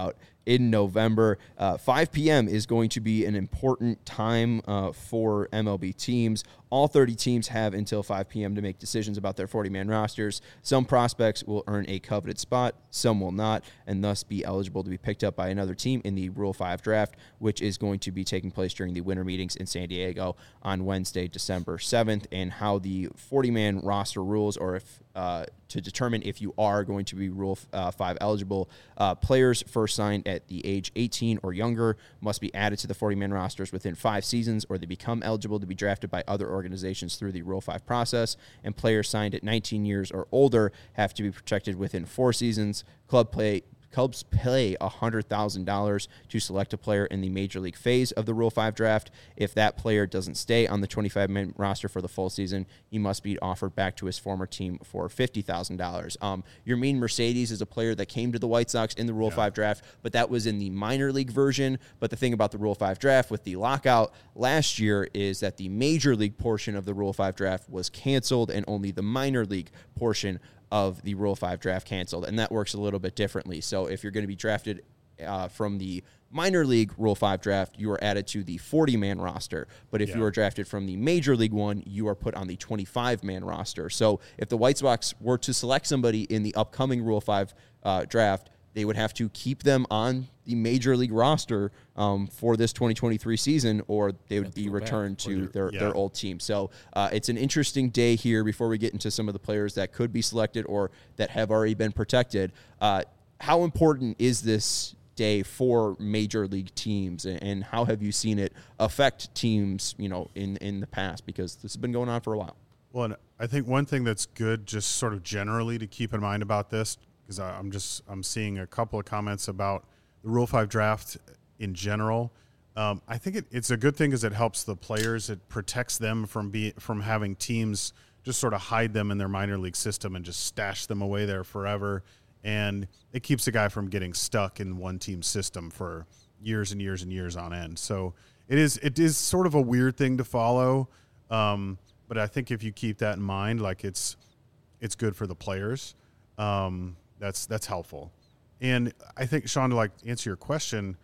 in November. Uh, five p.m. is going to be an important time uh, for M L B teams. All thirty teams have until five p.m. to make decisions about their forty-man rosters. Some prospects will earn a coveted spot, some will not, and thus be eligible to be picked up by another team in the Rule five draft, which is going to be taking place during the winter meetings in San Diego on Wednesday, December seventh, and how the forty-man roster rules, or if uh, to determine if you are going to be Rule uh, five eligible. Uh, players first signed at the age eighteen or younger must be added to the forty-man rosters within five seasons, or they become eligible to be drafted by other organizations through the Rule five process, and players signed at nineteen years or older have to be protected within four seasons. Club play Clubs pay one hundred thousand dollars to select a player in the Major League phase of the Rule five draft. If that player doesn't stay on the twenty-five-man roster for the full season, he must be offered back to his former team for fifty thousand dollars. Um, Yermin Mercedes is a player that came to the White Sox in the Rule yeah. five draft, but that was in the minor league version. But the thing about the Rule five draft with the lockout last year is that the Major League portion of the Rule five draft was canceled, and only the minor league portion of the Rule five draft canceled, and that works a little bit differently. So if you're going to be drafted uh, from the minor league Rule five draft, you are added to the forty-man roster. But if yeah. you are drafted from the Major League one, you are put on the twenty-five-man roster. So if the White Sox were to select somebody in the upcoming Rule five uh, draft, they would have to keep them on the Major League roster um, for this twenty twenty-three season, or they would be returned to their, yeah. their old team. So uh, it's an interesting day here before we get into some of the players that could be selected or that have already been protected. Uh, how important is this day for Major League teams, and how have you seen it affect teams, you know, in, in the past? Because this has been going on for a while. Well, and I think one thing that's good just sort of generally to keep in mind about this, because I'm just I'm seeing a couple of comments about the Rule five draft in general. Um, I think it, it's a good thing because it helps the players. It protects them from be, from having teams just sort of hide them in their minor league system and just stash them away there forever. And it keeps a guy from getting stuck in one team system for years and years and years on end. So it is it is sort of a weird thing to follow. Um, but I think if you keep that in mind, like it's it's good for the players. Um, that's that's helpful. And I think, Sean, to like answer your question,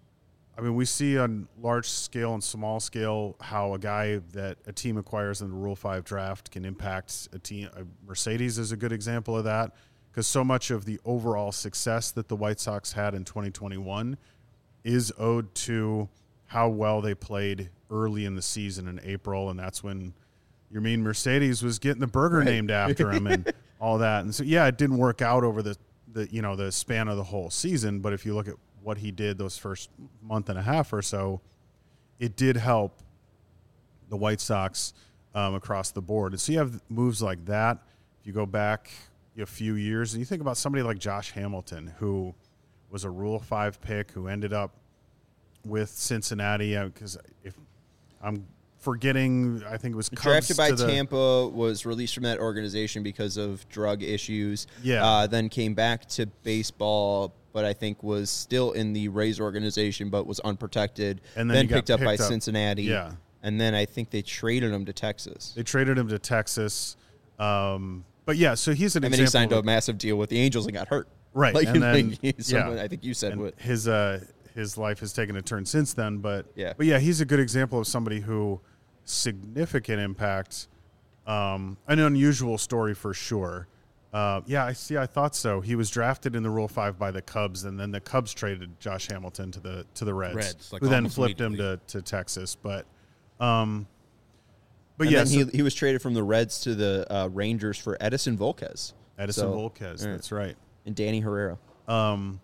I mean, we see on large scale and small scale how a guy that a team acquires in the Rule five draft can impact a team. Mercedes is a good example of that, because so much of the overall success that the White Sox had in twenty twenty-one is owed to how well they played early in the season in April, and that's when Yermin Mercedes was getting the burger right. named after him and all that. And so, yeah, it didn't work out over the, the you know the span of the whole season, but if you look at what he did those first month and a half or so, it did help the White Sox um, across the board. And so you have moves like that. If you go back a few years and you think about somebody like Josh Hamilton, who was a Rule five pick, who ended up with Cincinnati, because uh, if I'm forgetting, I think it was Cubs drafted by the, Tampa, was released from that organization because of drug issues. Yeah. Uh, then came back to baseball, but I think was still in the Rays organization, but was unprotected. And then, then picked up picked by up. Cincinnati. Yeah. And then I think they traded him to Texas. They traded him to Texas. Um, but yeah, so he's an and example. And then he signed of, a massive deal with the Angels and got hurt. Right. Like, and then, someone, yeah. I think you said and what his uh, his life has taken a turn since then. But yeah, but yeah, he's a good example of somebody who significant impact. Um, an unusual story for sure. Uh, yeah, I see. I thought so. He was drafted in the Rule Five by the Cubs, and then the Cubs traded Josh Hamilton to the to the Reds, Reds like who then flipped him to, to Texas. But, um, but yeah, then so he he was traded from the Reds to the uh, Rangers for Edison Volquez. Edison so, Volquez, yeah. that's right, and Danny Herrera. Um,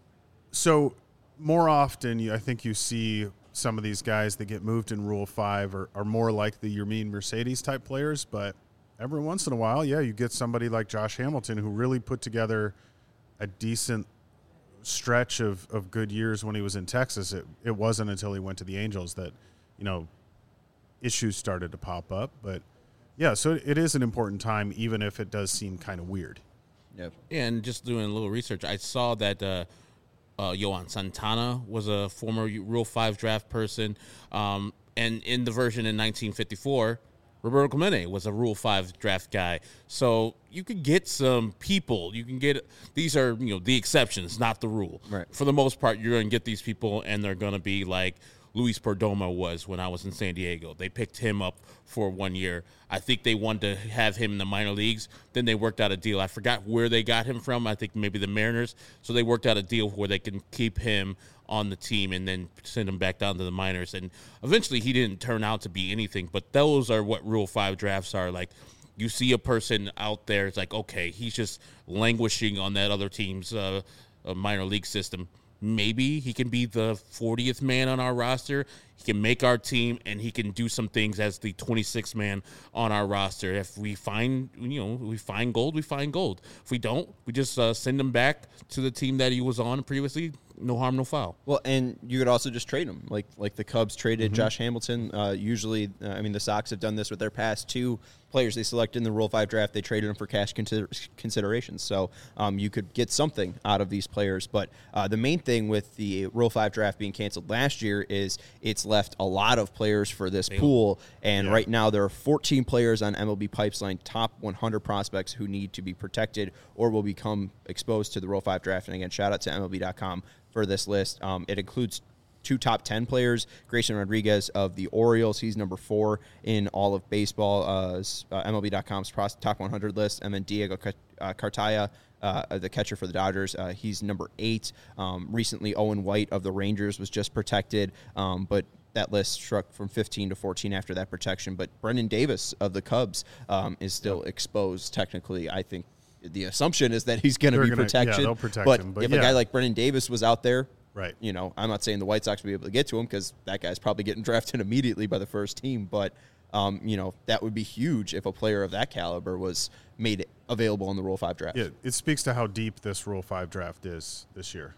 so more often, you, I think you see some of these guys that get moved in Rule Five are, are more like the Yermin Mercedes type players, but every once in a while, yeah, you get somebody like Josh Hamilton who really put together a decent stretch of, of good years when he was in Texas. It it wasn't until he went to the Angels that, you know, issues started to pop up. But, yeah, so it is an important time, even if it does seem kind of weird. Yep. Yeah, and just doing a little research, I saw that uh, uh, Yohan Santana was a former Rule five draft person. Um, and in the version in nineteen fifty-four, Roberto Clemente was a Rule five draft guy. So you can get some people. You can get – these are, you know, the exceptions, not the rule. Right. For the most part, you're going to get these people, and they're going to be like Luis Perdomo was when I was in San Diego. They picked him up for one year. I think they wanted to have him in the minor leagues. Then they worked out a deal. I forgot where they got him from. I think maybe the Mariners. So they worked out a deal where they can keep him on the team and then send him back down to the minors. And eventually he didn't turn out to be anything, but those are what Rule five drafts are. Like, you see a person out there, it's like, okay, he's just languishing on that other team's uh, uh, minor league system. Maybe he can be the fortieth man on our roster. He can make our team, and he can do some things as the twenty-sixth man on our roster. If we find, you know, we find gold, we find gold. If we don't, we just uh, send him back to the team that he was on previously. No harm, no foul. Well, and you could also just trade him, like like the Cubs traded Mm-hmm. Josh Hamilton. Uh, usually, uh, I mean, the Sox have done this with their past two players they selected in the Rule five draft. They traded them for cash consider- considerations. So um, you could get something out of these players. But uh, the main thing with the Rule five draft being canceled last year is it's left a lot of players for this pool. And Yeah. right now there are fourteen players on M L B Pipeline top one hundred prospects who need to be protected or will become exposed to the Rule five draft. And again, shout out to M L B dot com for this list. Um, it includes two top ten players. Grayson Rodriguez of the Orioles, he's number four in all of baseball, uh, uh, M L B dot com's pros- top one hundred list. And then Diego Ca- uh, Cartaya, uh, the catcher for the Dodgers, uh, he's number eight. Um, recently, Owen White of the Rangers was just protected, um, but that list struck from fifteen to fourteen after that protection. But Brendan Davis of the Cubs um, is still exposed technically. I think the assumption is that he's going to They're be gonna- protected. yeah, they'll protect but him, but if a yeah. guy like Brendan Davis was out there, Right. you know, I'm not saying the White Sox will be able to get to him because that guy's probably getting drafted immediately by the first team. But, um, you know, that would be huge if a player of that caliber was made available in the Rule five draft. Yeah, it speaks to how deep this Rule five draft is this year.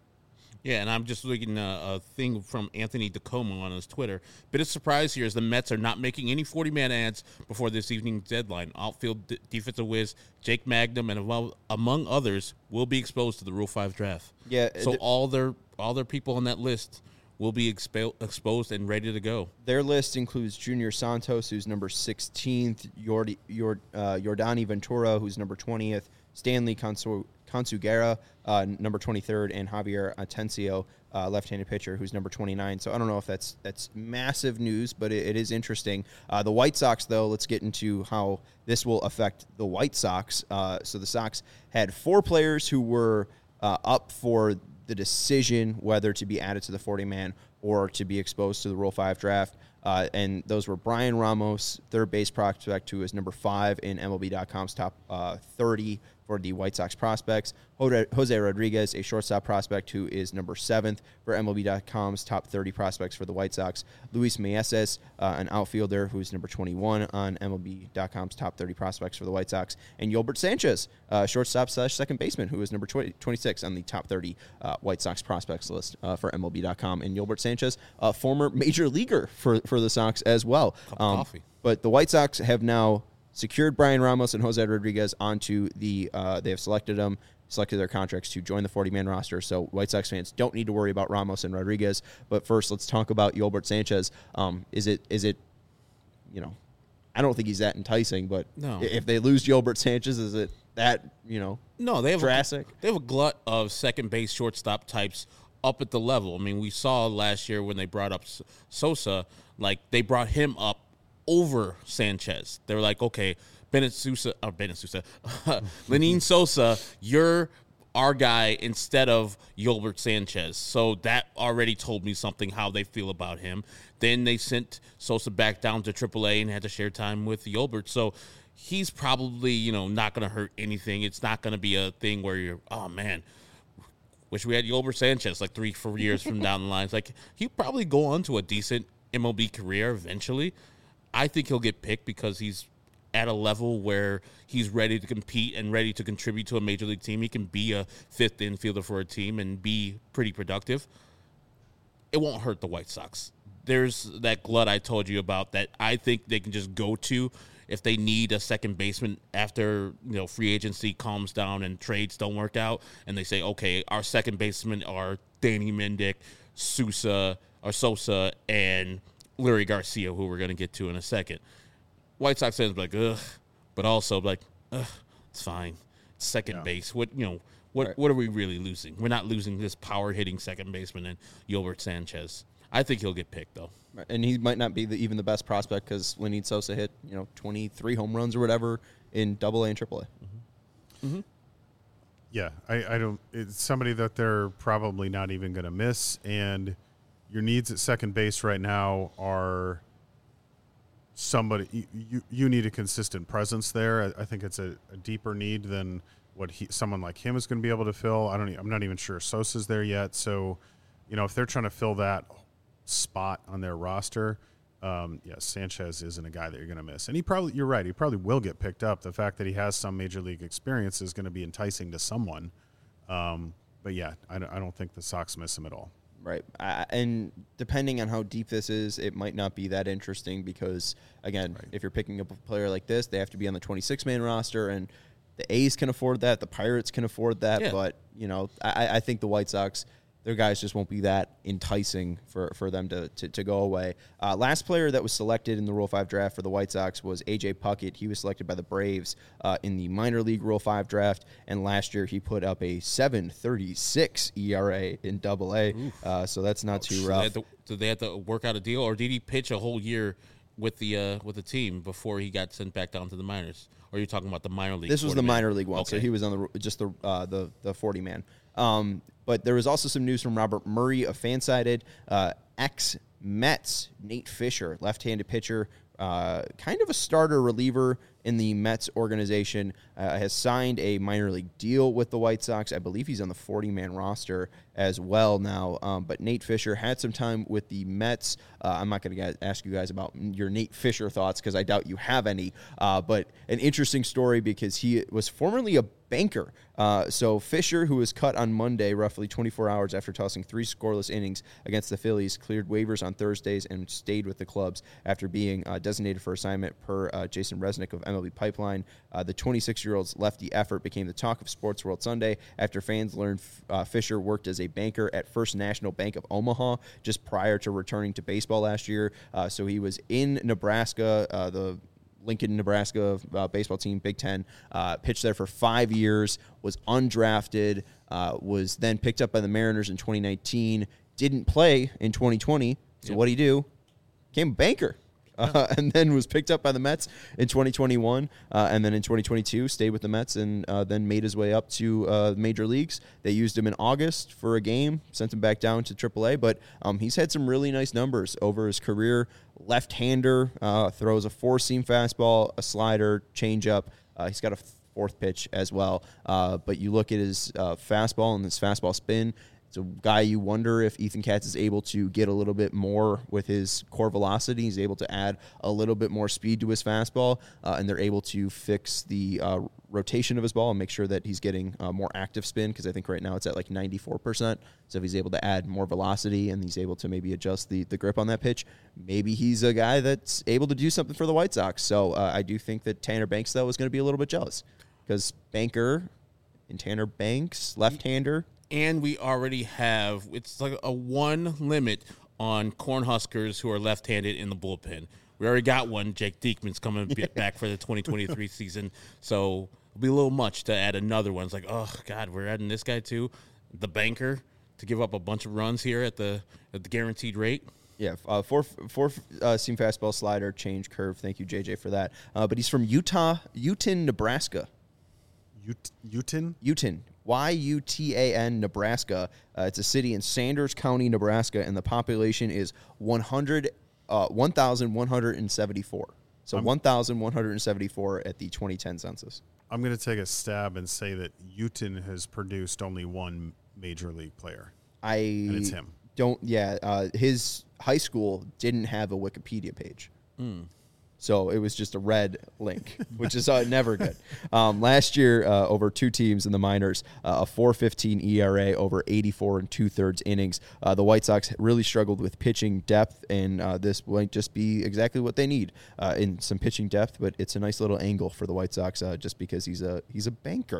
Yeah, and I'm just looking at a thing from Anthony DeComo on his Twitter. Bit of surprise here is the Mets are not making any forty-man ads before this evening's deadline. Outfield d- defensive whiz Jake Magnum and among, among others will be exposed to the Rule five draft. Yeah, so th- all their all their people on that list will be expo- exposed and ready to go. Their list includes Junior Santos, who's number sixteenth, Jordi, Jord, uh, Yordani Ventura, who's number twentieth, Stanley Consu- Consugera, uh, number twenty-third, and Javier Atencio, uh, left-handed pitcher, who's number twenty-nine. So I don't know if that's that's massive news, but it, it is interesting. Uh, the White Sox, though, let's get into how this will affect the White Sox. Uh, so the Sox had four players who were uh, up for the decision whether to be added to the forty-man or to be exposed to the Rule five draft. Uh, and those were Brian Ramos, third base prospect, who is number five in M L B dot com's top uh, thirty for the White Sox prospects. Jose Rodriguez, a shortstop prospect, who is number seventh for M L B dot com's top thirty prospects for the White Sox. Luis Meneses, uh, an outfielder, who's number twenty-one on M L B dot com's top thirty prospects for the White Sox. And Yolbert Sanchez, uh, shortstop slash second baseman, who is number twenty, twenty-six on the top thirty uh, White Sox prospects list uh, for M L B dot com. And Yolbert Sanchez, a former major leaguer for, for the Sox as well. Cup of coffee. But the White Sox have now secured Brian Ramos and Jose Rodriguez onto the, uh, they have selected them, selected their contracts to join the forty-man roster. So White Sox fans don't need to worry about Ramos and Rodriguez. But first, let's talk about Yolbert Sanchez. Um, is it, is it, you know, I don't think he's that enticing, but No. if they lose Yolbert Sanchez, is it that, you know, No, they have drastic? A, they have a glut of second base shortstop types up at the level. I mean, we saw last year when they brought up S- Sosa, like they brought him up over Sanchez. They were like, okay, Bennett Sousa, or Bennett Sousa, Lenine Sosa, you're our guy instead of Yolbert Sanchez. So that already told me something how they feel about him. Then they sent Sosa back down to triple A and had to share time with Yolbert. So he's probably, you know, not going to hurt anything. It's not going to be a thing where you're, oh, man, wish we had Yolbert Sanchez like three, four years from down the line. It's like he'll probably go on to a decent M L B career eventually. I think he'll get picked because he's at a level where he's ready to compete and ready to contribute to a major league team. He can be a fifth infielder for a team and be pretty productive. It won't hurt the White Sox. There's that glut I told you about that I think they can just go to if they need a second baseman after, you know, free agency calms down and trades don't work out, and they say, okay, our second basemen are Danny Mendick, Sousa, or Sosa, and Lurie Garcia, who we're going to get to in a second. White Sox fans like, ugh, but also like, ugh, it's fine. It's second Yeah. base. What you know? What Right. what are we really losing? We're not losing this power hitting second baseman and Yolbert Sanchez. I think he'll get picked though. And he might not be the, even the best prospect because Lenyn Sosa hit, you know, twenty-three home runs or whatever in Double A and Triple A. Mm-hmm. Yeah, I, I don't. It's somebody that they're probably not even going to miss, and your needs at second base right now are somebody. You you, you need a consistent presence there. I, I think it's a, a deeper need than what he, someone like him is going to be able to fill. I don't. e- I'm not even sure Sosa's there yet. So, you know, if they're trying to fill that spot on their roster, um, yeah, Sanchez isn't a guy that you're going to miss. And he probably, you're right, he probably will get picked up. The fact that he has some major league experience is going to be enticing to someone. Um, but yeah, I don't, I don't think the Sox miss him at all. Right. I, and depending on how deep this is, it might not be that interesting because, again, Right. if you're picking up a player like this, they have to be on the twenty-six man roster, and the A's can afford that. The Pirates can afford that. Yeah. But, you know, I, I think the White Sox, their guys just won't be that enticing for, for them to, to, to go away. Uh, last player that was selected in the Rule five draft for the White Sox was A J Puckett. He was selected by the Braves uh, in the minor league Rule five draft, and last year he put up a seven thirty-six E R A in Double A, uh, so that's not too Did they, rough. have to, did they have to work out a deal, or did he pitch a whole year with the uh, with the team before he got sent back down to the minors? Or are you talking about the minor league? This was the forty-man? minor league one, so Okay. he was on the just the uh, the the forty man. Um, but there was also some news from Robert Murray of Fansided. Uh, ex Mets Nate Fisher, left-handed pitcher, uh, kind of a starter reliever in the Mets organization, uh, has signed a minor league deal with the White Sox. I believe he's on the forty man roster as well now. Um, but Nate Fisher had some time with the Mets. Uh, I'm not going to ask you guys about your Nate Fisher thoughts because I doubt you have any. Uh, but an interesting story because he was formerly a banker. Uh, so Fisher, who was cut on Monday, roughly twenty-four hours after tossing three scoreless innings against the Phillies, cleared waivers on Thursdays and stayed with the clubs after being uh, designated for assignment per uh, Jason Resnick of M L B Pipeline. Uh, the twenty-six-year-old's lefty effort became the talk of Sports World Sunday after fans learned uh, Fisher worked as a banker at First National Bank of Omaha just prior to returning to baseball last year. Uh, so he was in Nebraska, uh, the Lincoln, Nebraska uh, baseball team, Big Ten, uh, pitched there for five years, was undrafted, uh, was then picked up by the Mariners in twenty nineteen, didn't play in twenty twenty. So Yep. what did he do? Became a banker. Uh, and then was picked up by the Mets in twenty twenty-one, uh, and then in twenty twenty-two stayed with the Mets and uh, then made his way up to uh, major leagues. They used him in August for a game, sent him back down to triple A, but um, he's had some really nice numbers over his career. Left-hander, uh, throws a four-seam fastball, a slider, changeup. Uh, he's got a fourth pitch as well. Uh, but you look at his uh, fastball and his fastball spin. It's a guy you wonder if Ethan Katz is able to get a little bit more with his core velocity. He's able to add a little bit more speed to his fastball, uh, and they're able to fix the uh, rotation of his ball and make sure that he's getting uh, more active spin, because I think right now it's at like ninety-four percent. So if he's able to add more velocity and he's able to maybe adjust the, the grip on that pitch, maybe he's a guy that's able to do something for the White Sox. So uh, I do think that Tanner Banks, though, is going to be a little bit jealous, because Banker and Tanner Banks, left-hander, And we already have, it's like a one limit on Cornhuskers who are left-handed in the bullpen. We already got one. Jake Diekman's coming b- back for the twenty twenty-three season. So it'll be a little much to add another one. It's like, oh, God, we're adding this guy too. The banker to give up a bunch of runs here at the at the guaranteed rate. Yeah, uh, four four uh, seam fastball, slider, change, curve. Thank you, J J, for that. Uh, but he's from Utah, Uton, Nebraska. Ut- Uton? Uton, Y U T A N, Nebraska. Uh, it's a city in Sanders County, Nebraska, and the population is one hundred, uh, one thousand one hundred seventy-four. So I'm- one thousand one hundred seventy-four at the twenty ten census. I'm going to take a stab and say that Uton has produced only one major league player. I And it's him. don't. Yeah, uh, his high school didn't have a Wikipedia page, so it was just a red link, which is uh, never good. Um, last year, uh, over two teams in the minors, uh, a four fifteen E R A over eighty-four and two thirds innings. Uh, the White Sox really struggled with pitching depth, and uh, this might just be exactly what they need uh, in some pitching depth. But it's a nice little angle for the White Sox, uh, just because he's a he's a banker.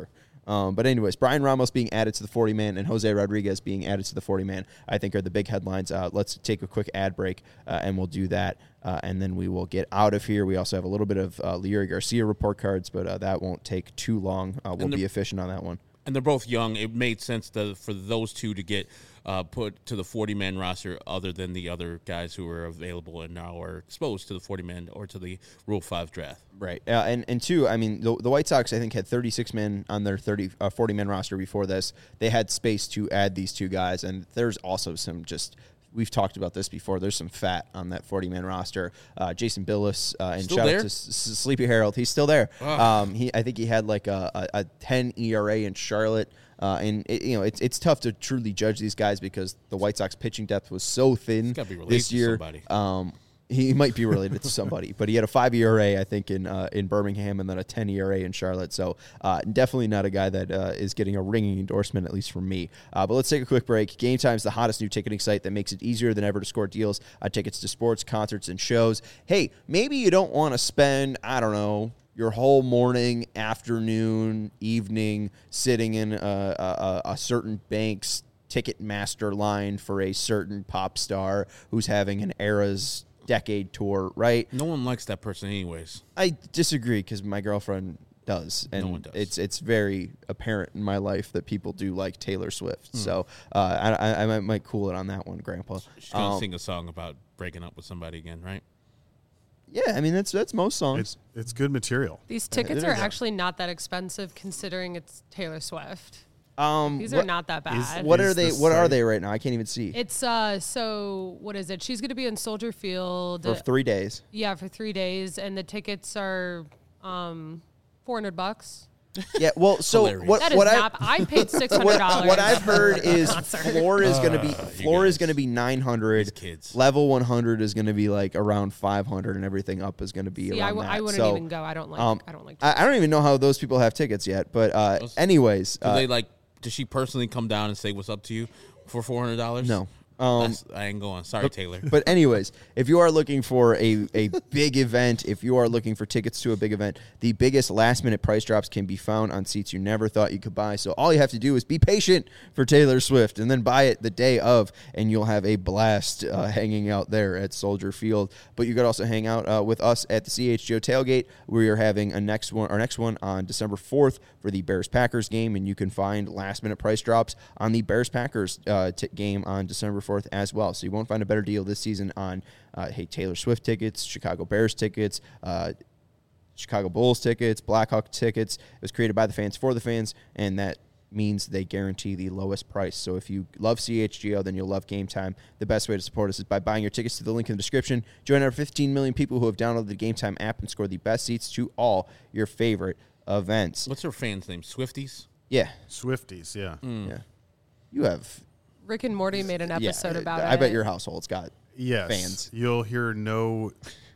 Um, but anyways, Brian Ramos being added to the forty-man and Jose Rodriguez being added to the forty-man, I think are the big headlines. Uh, let's take a quick ad break, uh, and we'll do that, uh, and then we will get out of here. We also have a little bit of uh, Leury Garcia report cards, but uh, that won't take too long. Uh, we'll the- be efficient on that one. And they're both young. It made sense to, for those two to get uh, put to the forty-man roster other than the other guys who are available and now are exposed to the forty-man or to the Rule five draft. Right. Uh, and, and two, I mean, the, the White Sox, I think, had thirty-six men on their thirty, uh, forty-man roster before this. They had space to add these two guys, and there's also some just – we've talked about this before. There's some fat on that forty-man roster. Uh, Jason Billis uh, and Still shout there? out to S- S- Sleepy Harold. He's still there. Ugh. Um, he, I think he had like a, a, a ten E R A in Charlotte. Uh, and it, you know it's it's tough to truly judge these guys because the White Sox pitching depth was so thin gotta be related this to year. somebody. Um, he might be related to somebody, but he had a five E R A, I think, in uh, in Birmingham, and then a ten E R A in Charlotte. So uh, definitely not a guy that uh, is getting a ringing endorsement, at least from me. Uh, but let's take a quick break. Game Time's the hottest new ticketing site that makes it easier than ever to score deals on tickets to sports, concerts, and shows. Hey, maybe you don't want to spend, I don't know, your whole morning, afternoon, evening sitting in a, a, a certain bank's Ticketmaster line for a certain pop star who's having an Eras decade tour, right? No one likes that person anyways. I disagree because my girlfriend does, and No one does. it's it's very apparent in my life that people do like Taylor Swift. Hmm. So uh, I, I, I might, might cool it on that one, Grandpa. She's going to Um, sing a song about breaking up with somebody again, right? Yeah, I mean that's that's most songs. It's it's good material. These tickets it are is. actually not that expensive considering it's Taylor Swift. Um, These what, are not that bad. what Is are they? the What are site- they right now? I can't even see. It's uh so what is it? She's gonna be in Soldier Field. For three days. Yeah, for three days, and the tickets are um four hundred bucks. Yeah, well, so Hilarious. what? That is what I, not. I paid six hundred what, dollars. what I've heard is concert. floor is going to be you floor is guys. going to be nine These hundred. kids. Level one hundred is going to be like around five hundred, and everything up is going to be See, around I, w- that. I wouldn't So, even go. I don't like. um, I don't like. I, I don't even know how those people have tickets yet. But uh, Those- anyways, Do uh, they like? Does she personally come down and say what's up to you for four hundred dollars? no. Um, I ain't going. Sorry, Taylor. But anyways, if you are looking for a, a big event, if you are looking for tickets to a big event, the biggest last minute price drops can be found on seats you never thought you could buy. So all you have to do is be patient for Taylor Swift and then buy it the day of, and you'll have a blast uh, hanging out there at Soldier Field. But you could also hang out uh, with us at the C H G O tailgate. We are having a next one, our next one on December fourth for the Bears Packers game, and you can find last minute price drops on the Bears Packers uh, t- game on December fourth as well. So you won't find a better deal this season on uh, hey Taylor Swift tickets, Chicago Bears tickets, uh, Chicago Bulls tickets, Blackhawk tickets. It was created by the fans for the fans, and that means they guarantee the lowest price. So if you love C H G O, then you'll love Game Time. The best way to support us is by buying your tickets to the link in the description. Join our fifteen million people who have downloaded the Game Time app and score the best seats to all your favorite events. What's her fans' name? Swifties? Yeah, Swifties, yeah. yeah. You have Rick and Morty made an episode yeah, about I it. bet your household's got Yes. fans. You'll hear no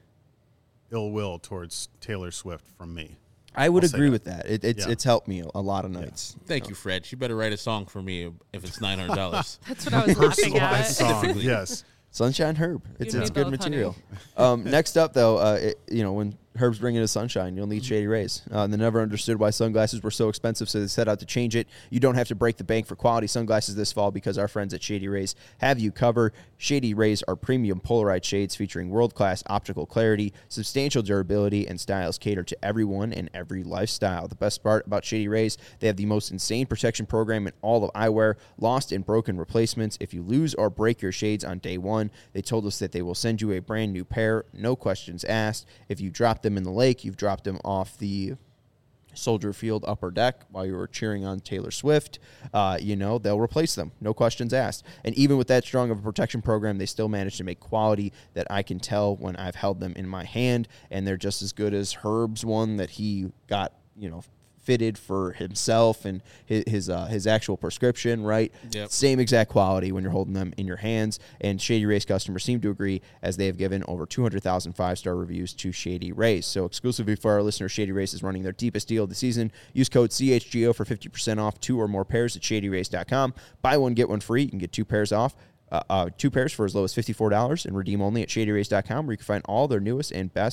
ill will towards Taylor Swift from me. I would I'll say agree that. with that. It, it's Yeah. it's helped me a lot of nights. Thank you, Fred. She better write a song for me if it's nine hundred dollars. That's what I was laughing Personalized at. song, Specifically. yes. Sunshine Herb. It's, You it's need good both, material. um, next up, though, uh, it, you know, when Herb's bringing us sunshine, you'll need Shady Rays. Uh, and they never understood why sunglasses were so expensive, so they set out to change it. You don't have to break the bank for quality sunglasses this fall because our friends at Shady Rays have you covered. Shady Rays are premium polarized shades featuring world-class optical clarity, substantial durability, and styles catered to everyone and every lifestyle. The best part about Shady Rays, they have the most insane protection program in all of eyewear, lost and broken replacements. If you lose or break your shades on day one, they told us that they will send you a brand new pair, no questions asked. If you drop them in the lake, you've dropped them off the Soldier Field upper deck while you were cheering on Taylor Swift, uh, you know, they'll replace them. No questions asked. And even with that strong of a protection program, they still manage to make quality that I can tell when I've held them in my hand, and they're just as good as Herb's one that he got, you know, fitted for himself and his his, uh, his actual prescription, right? Yep. Same exact quality when you're holding them in your hands. And Shady Rays customers seem to agree, as they have given over two hundred thousand five-star reviews to Shady Rays. So exclusively for our listeners, Shady Rays is running their deepest deal of the season. Use code C H G O for fifty percent off two or more pairs at shady rays dot com. Buy one, get one free. You can get two pairs off. Uh, uh, two pairs for as low as fifty-four dollars and redeem only at shady rays dot com, where you can find all their newest and best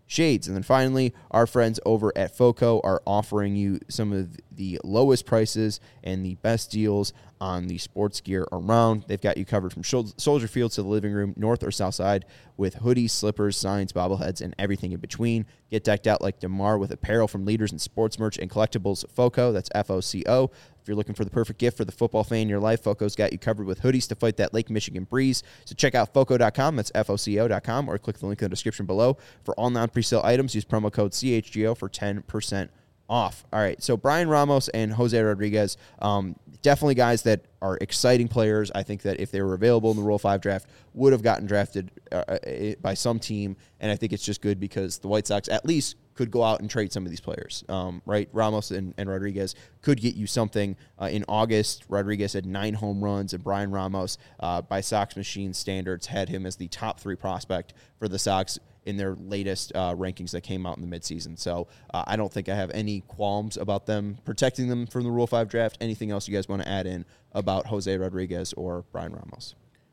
shades. And then finally, our friends over at FOCO are offering you some of the lowest prices and the best deals on the sports gear around. They've got you covered from Soldier Field to the living room, north or south side, with hoodies, slippers, signs, bobbleheads, and everything in between. Get decked out like DeMar with apparel from leaders in sports merch and collectibles. FOCO, that's F O C O. If you're looking for the perfect gift for the football fan in your life, FOCO's got you covered with hoodies to fight that Lake Michigan breeze. So check out foco dot com, that's F O C O dot com, or click the link in the description below. For all non-presale items, use promo code C H G O for ten percent off. All right, so Brian Ramos and Jose Rodriguez, um, definitely guys that are exciting players. I think that if they were available in the Rule five draft, would have gotten drafted uh, by some team, and I think it's just good because the White Sox at least could go out and trade some of these players, um, right? Ramos and, and Rodriguez could get you something. Uh, in August, Rodriguez had nine home runs, and Brian Ramos, uh, by Sox machine standards, had him as the top three prospect for the Sox in their latest uh, rankings that came out in the midseason. So uh, I don't think I have any qualms about them protecting them from the Rule five draft. Anything else you guys want to add in about Jose Rodriguez or Brian Ramos?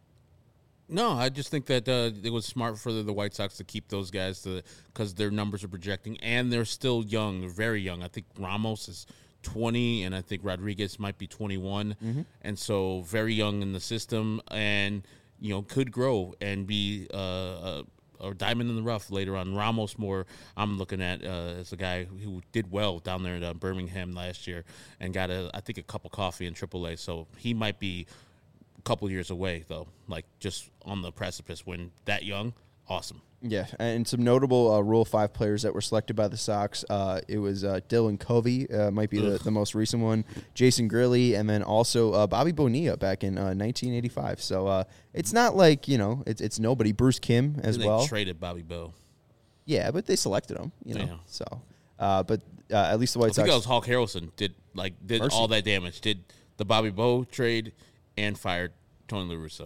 No, I just think that uh, it was smart for the, the White Sox to keep those guys because their numbers are projecting, and they're still young. They're very young. I think Ramos is twenty, and I think Rodriguez might be twenty-one, mm-hmm. and so very young in the system, and you know could grow and be uh, a, a diamond in the rough later on. Ramos more, I'm looking at uh, as a guy who did well down there at uh, Birmingham last year and got a I think a cup of coffee in triple A, so he might be couple years away, though, like just on the precipice when that young. Awesome. Yeah, and some notable uh, Rule five players that were selected by the Sox. Uh, it was uh, Dylan Covey, uh, might be the, the most recent one, Jason Grilli, and then also uh, Bobby Bonilla back in uh, nineteen eighty-five. So uh, it's not like, you know, it's it's nobody. Bruce Kim as they well. They traded Bobby Bo. Yeah, but they selected him, you know. Yeah. So, uh, but uh, at least the White I Sox. think that was Hawk Harrelson did like did Mercy. all that damage. Did the Bobby Bo trade and fired Tony La Russa.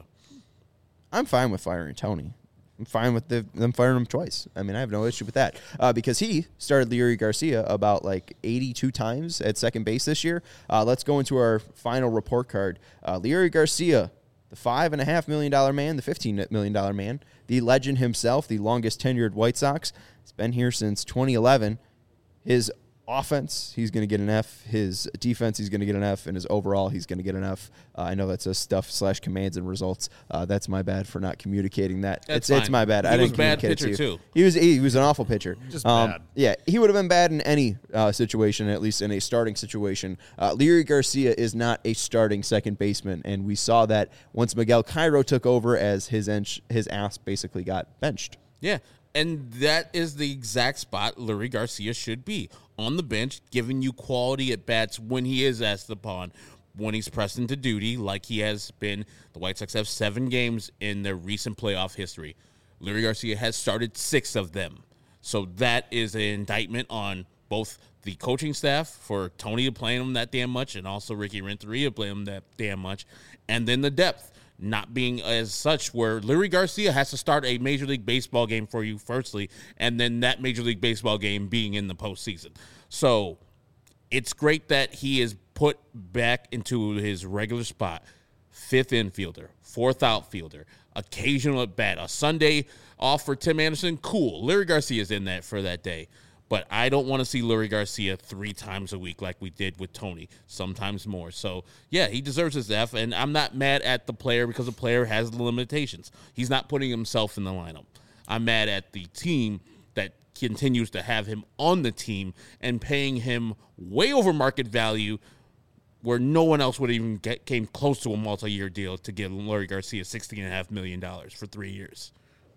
I'm fine with firing Tony. I'm fine with the, them firing him twice. I mean, I have no issue with that uh, because he started Leury Garcia about like eighty-two times at second base this year. Uh, let's go into our final report card. Uh, Leury Garcia, the five and a half million dollar man, the fifteen million dollar man, the legend himself, the longest tenured White Sox. He's been here since twenty eleven. His offense, he's going to get an F. His defense, he's going to get an F. And his overall, he's going to get an F. Uh, I know that's a stuff slash commands and results. Uh, that's my bad for not communicating that. That's it's, it's my bad. He I was didn't bad communicate pitcher, it to you. too. He was he was an awful pitcher. Just um, bad. Yeah, he would have been bad in any uh, situation, at least in a starting situation. Uh, Leury Garcia is not a starting second baseman, and we saw that once Miguel Cairo took over as his ench, his ass basically got benched. Yeah, and that is the exact spot Leury Garcia should be, on the bench, giving you quality at bats when he is asked upon, when he's pressed into duty, like he has been. The White Sox have seven games in their recent playoff history. Leury Garcia has started six of them. So that is an indictment on both the coaching staff for Tony to play him that damn much and also Ricky Renteria playing him that damn much, and then the depth not being as such where Leury Garcia has to start a Major League Baseball game for you firstly, and then that Major League Baseball game being in the postseason. So it's great that he is put back into his regular spot. Fifth infielder, fourth outfielder, occasional at bat. A Sunday off for Tim Anderson, cool. Leury Garcia is in that for that day. But I don't want to see Leury Garcia three times a week like we did with Tony, sometimes more. So, yeah, he deserves his F, and I'm not mad at the player because the player has the limitations. He's not putting himself in the lineup. I'm mad at the team that continues to have him on the team and paying him way over market value where no one else would even get came close to a multi-year deal to give Leury Garcia sixteen point five million dollars for three years.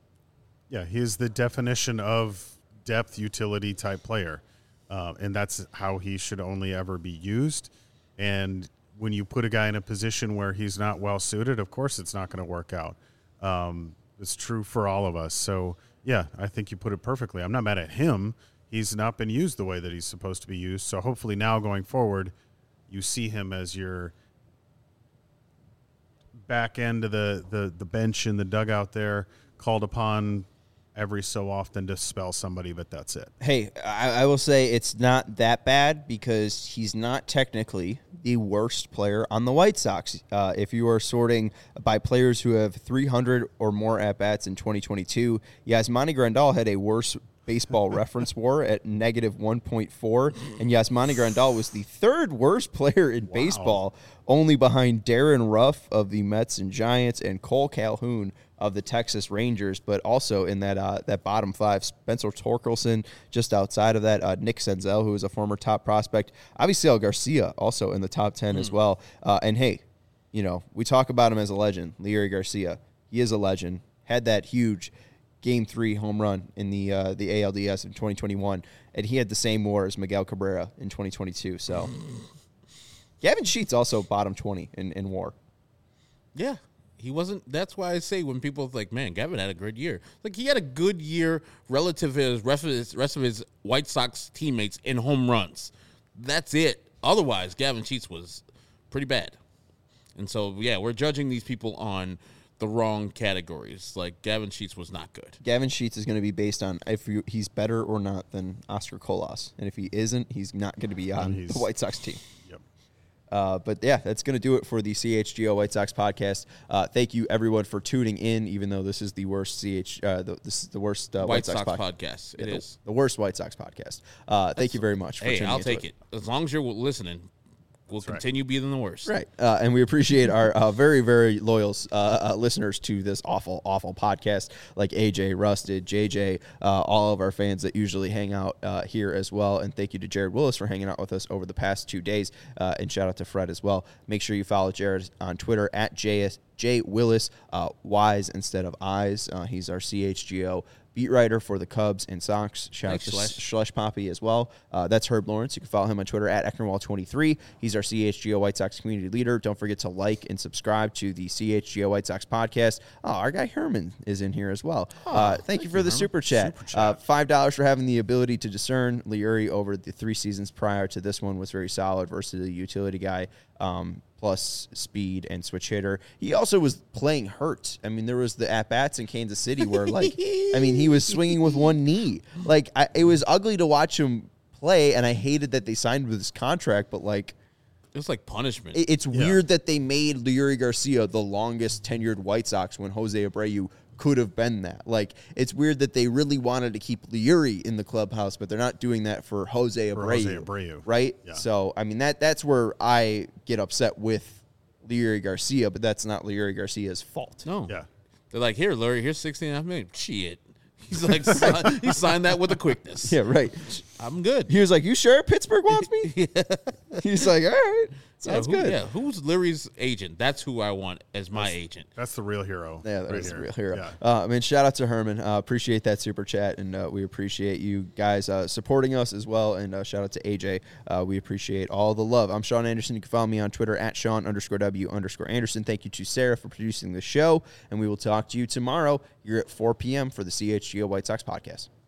Yeah, he is the definition of depth utility type player, uh, and that's how he should only ever be used. And when you put a guy in a position where he's not well suited, of course it's not going to work out. Um, it's true for all of us. So yeah, I think you put it perfectly. I'm not mad at him. He's not been used the way that he's supposed to be used. So hopefully now going forward, you see him as your back end of the, the, the bench in the dugout there, called upon every so often to spell somebody, but that's it. Hey, I, I will say it's not that bad because he's not technically the worst player on the White Sox. Uh, if you are sorting by players who have three hundred or more at-bats in twenty twenty-two, Yasmani Grandal had a worse Baseball Reference War at negative one point four. And Yasmani Grandal was the third worst player in wow. baseball, only behind Darren Ruff of the Mets and Giants and Cole Calhoun of the Texas Rangers, but also in that uh, that bottom five, Spencer Torkelson just outside of that, uh, Nick Senzel, who is a former top prospect, Avisail Garcia also in the top ten mm. as well. Uh, and hey, you know, we talk about him as a legend, Leury Garcia. He is a legend. Had that huge Game Three home run in the uh, the A L D S in twenty twenty-one, and he had the same WAR as Miguel Cabrera in twenty twenty-two. So, Gavin Sheets also bottom twenty in, in WAR. Yeah. He wasn't. That's why I say when people are like, man, Gavin had a good year. Like, he had a good year relative to his rest of his, rest of his White Sox teammates in home runs. That's it. Otherwise, Gavin Sheets was pretty bad. And so, yeah, we're judging these people on the wrong categories. Like, Gavin Sheets was not good. Gavin Sheets is going to be based on if you, he's better or not than Oscar Colas. And if he isn't, he's not going to be on the White Sox team. Yep. Uh, but, yeah, that's going to do it for the C H G O White Sox podcast. Uh, thank you, everyone, for tuning in, even though this is the worst C H. Uh, the, this is the worst uh, White, White Sox, Sox pod- podcast. yeah, It the, is. The worst White Sox podcast. Uh, thank you very much for hey, tuning I'll into take it. it. As long as you're listening, we'll That's right. continue being the worst. Right. Uh, and we appreciate our uh, very, very loyal uh, uh, listeners to this awful, awful podcast, like A J, Rusted, J J, uh, all of our fans that usually hang out uh, here as well. And thank you to Jared Willis for hanging out with us over the past two days. Uh, and shout out to Fred as well. Make sure you follow Jared on Twitter at J S J Willis, uh, Y's instead of I's. Uh, he's our C H G O beat writer for the Cubs and Sox. Shout Thanks, out to Schlesh. Schlesh Poppy as well. Uh, that's Herb Lawrence. You can follow him on Twitter at Ecknerwall twenty-three. He's our C H G O White Sox community leader. Don't forget to like and subscribe to the C H G O White Sox podcast. Oh, our guy Herman is in here as well. Oh, uh, thank, thank you for you, the Herman. super chat. Super chat. Uh, five dollars for having the ability to discern. Leury over the three seasons prior to this one was very solid versus the utility guy. Um, plus speed and switch hitter. He also was playing hurt. I mean, there was the at-bats in Kansas City where, like, I mean, he was swinging with one knee. Like, I, it was ugly to watch him play, and I hated that they signed with his contract, but, like, It was like punishment. it, it's Yeah. weird that they made Leury Garcia the longest tenured White Sox when Jose Abreu could have been that. Like, it's weird that they really wanted to keep Leury in the clubhouse, but they're not doing that for Jose Abreu. For Jose Abreu. Right? Yeah. So, I mean, that that's where I get upset with Leury Garcia, but that's not Leury Garcia's fault. no. Yeah. They're like, here, Larry, here's sixteen and a half million. Shit. He's like, sign, he signed that with a quickness. Yeah, right. I'm good. He was like, you sure Pittsburgh wants me? yeah. He's like, all right. Sounds yeah, who, good. Yeah, who's Larry's agent? That's who I want as my agent. That's the real hero. Yeah, that right is here. the real hero. Yeah. Uh, I mean, shout out to Herman. Uh, appreciate that super chat, and uh, we appreciate you guys uh, supporting us as well. And uh, shout out to A J. Uh, we appreciate all the love. I'm Sean Anderson. You can follow me on Twitter at Sean underscore W underscore Anderson. Thank you to Sarah for producing the show, and we will talk to you tomorrow here at four p.m. for the C H G O White Sox podcast.